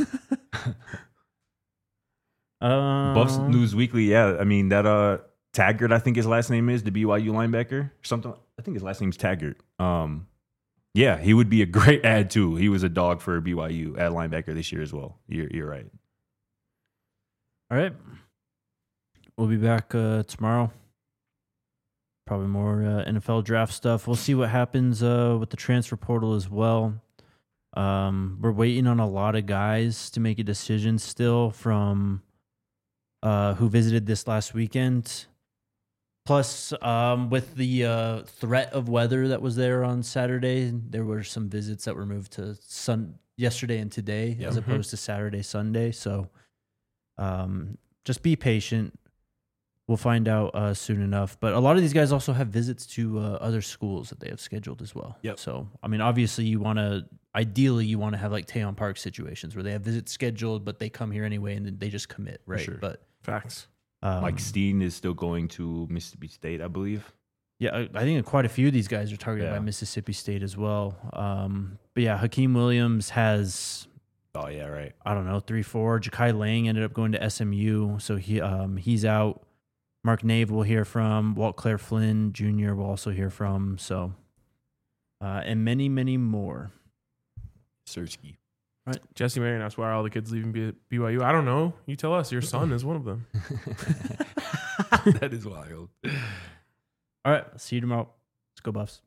[SPEAKER 3] Buffs News Weekly, yeah. I mean, that Taggart, I think his last name is, the BYU linebacker. Something. I think his last name's Taggart. Yeah, he would be a great add, too. He was a dog for BYU at linebacker this year as well. You're right.
[SPEAKER 1] All right. We'll be back tomorrow. Probably more NFL draft stuff. We'll see what happens with the transfer portal as well. We're waiting on a lot of guys to make a decision still from who visited this last weekend. Plus, with the threat of weather that was there on Saturday, there were some visits that were moved to yesterday and today as opposed to Saturday, Sunday. So just be patient. We'll find out soon enough. But a lot of these guys also have visits to other schools that they have scheduled as well.
[SPEAKER 3] Yep.
[SPEAKER 1] So, I mean, obviously ideally you want to have like Tayon Park situations where they have visits scheduled, but they come here anyway and then they just commit, right?
[SPEAKER 3] Sure.
[SPEAKER 1] But
[SPEAKER 2] Facts.
[SPEAKER 3] Mike Steen is still going to Mississippi State, I believe.
[SPEAKER 1] yeah, I think quite a few of these guys are targeted by Mississippi State as well. But yeah, Hakeem Williams has,
[SPEAKER 3] Oh, yeah, right.
[SPEAKER 1] I don't know, 3-4. Ja'Kai Lang ended up going to SMU, so he's out. Mark Nave we'll hear from. Walt Claire Flynn Jr. we'll also hear from. So, and many, many more.
[SPEAKER 3] Sersky.
[SPEAKER 2] Jesse Marion asked why are all the kids leaving BYU. I don't know. You tell us. Your son is one of them.
[SPEAKER 3] That is wild.
[SPEAKER 1] All right, see you tomorrow. Let's go Buffs.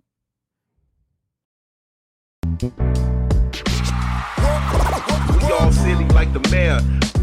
[SPEAKER 6] We all silly like the mayor.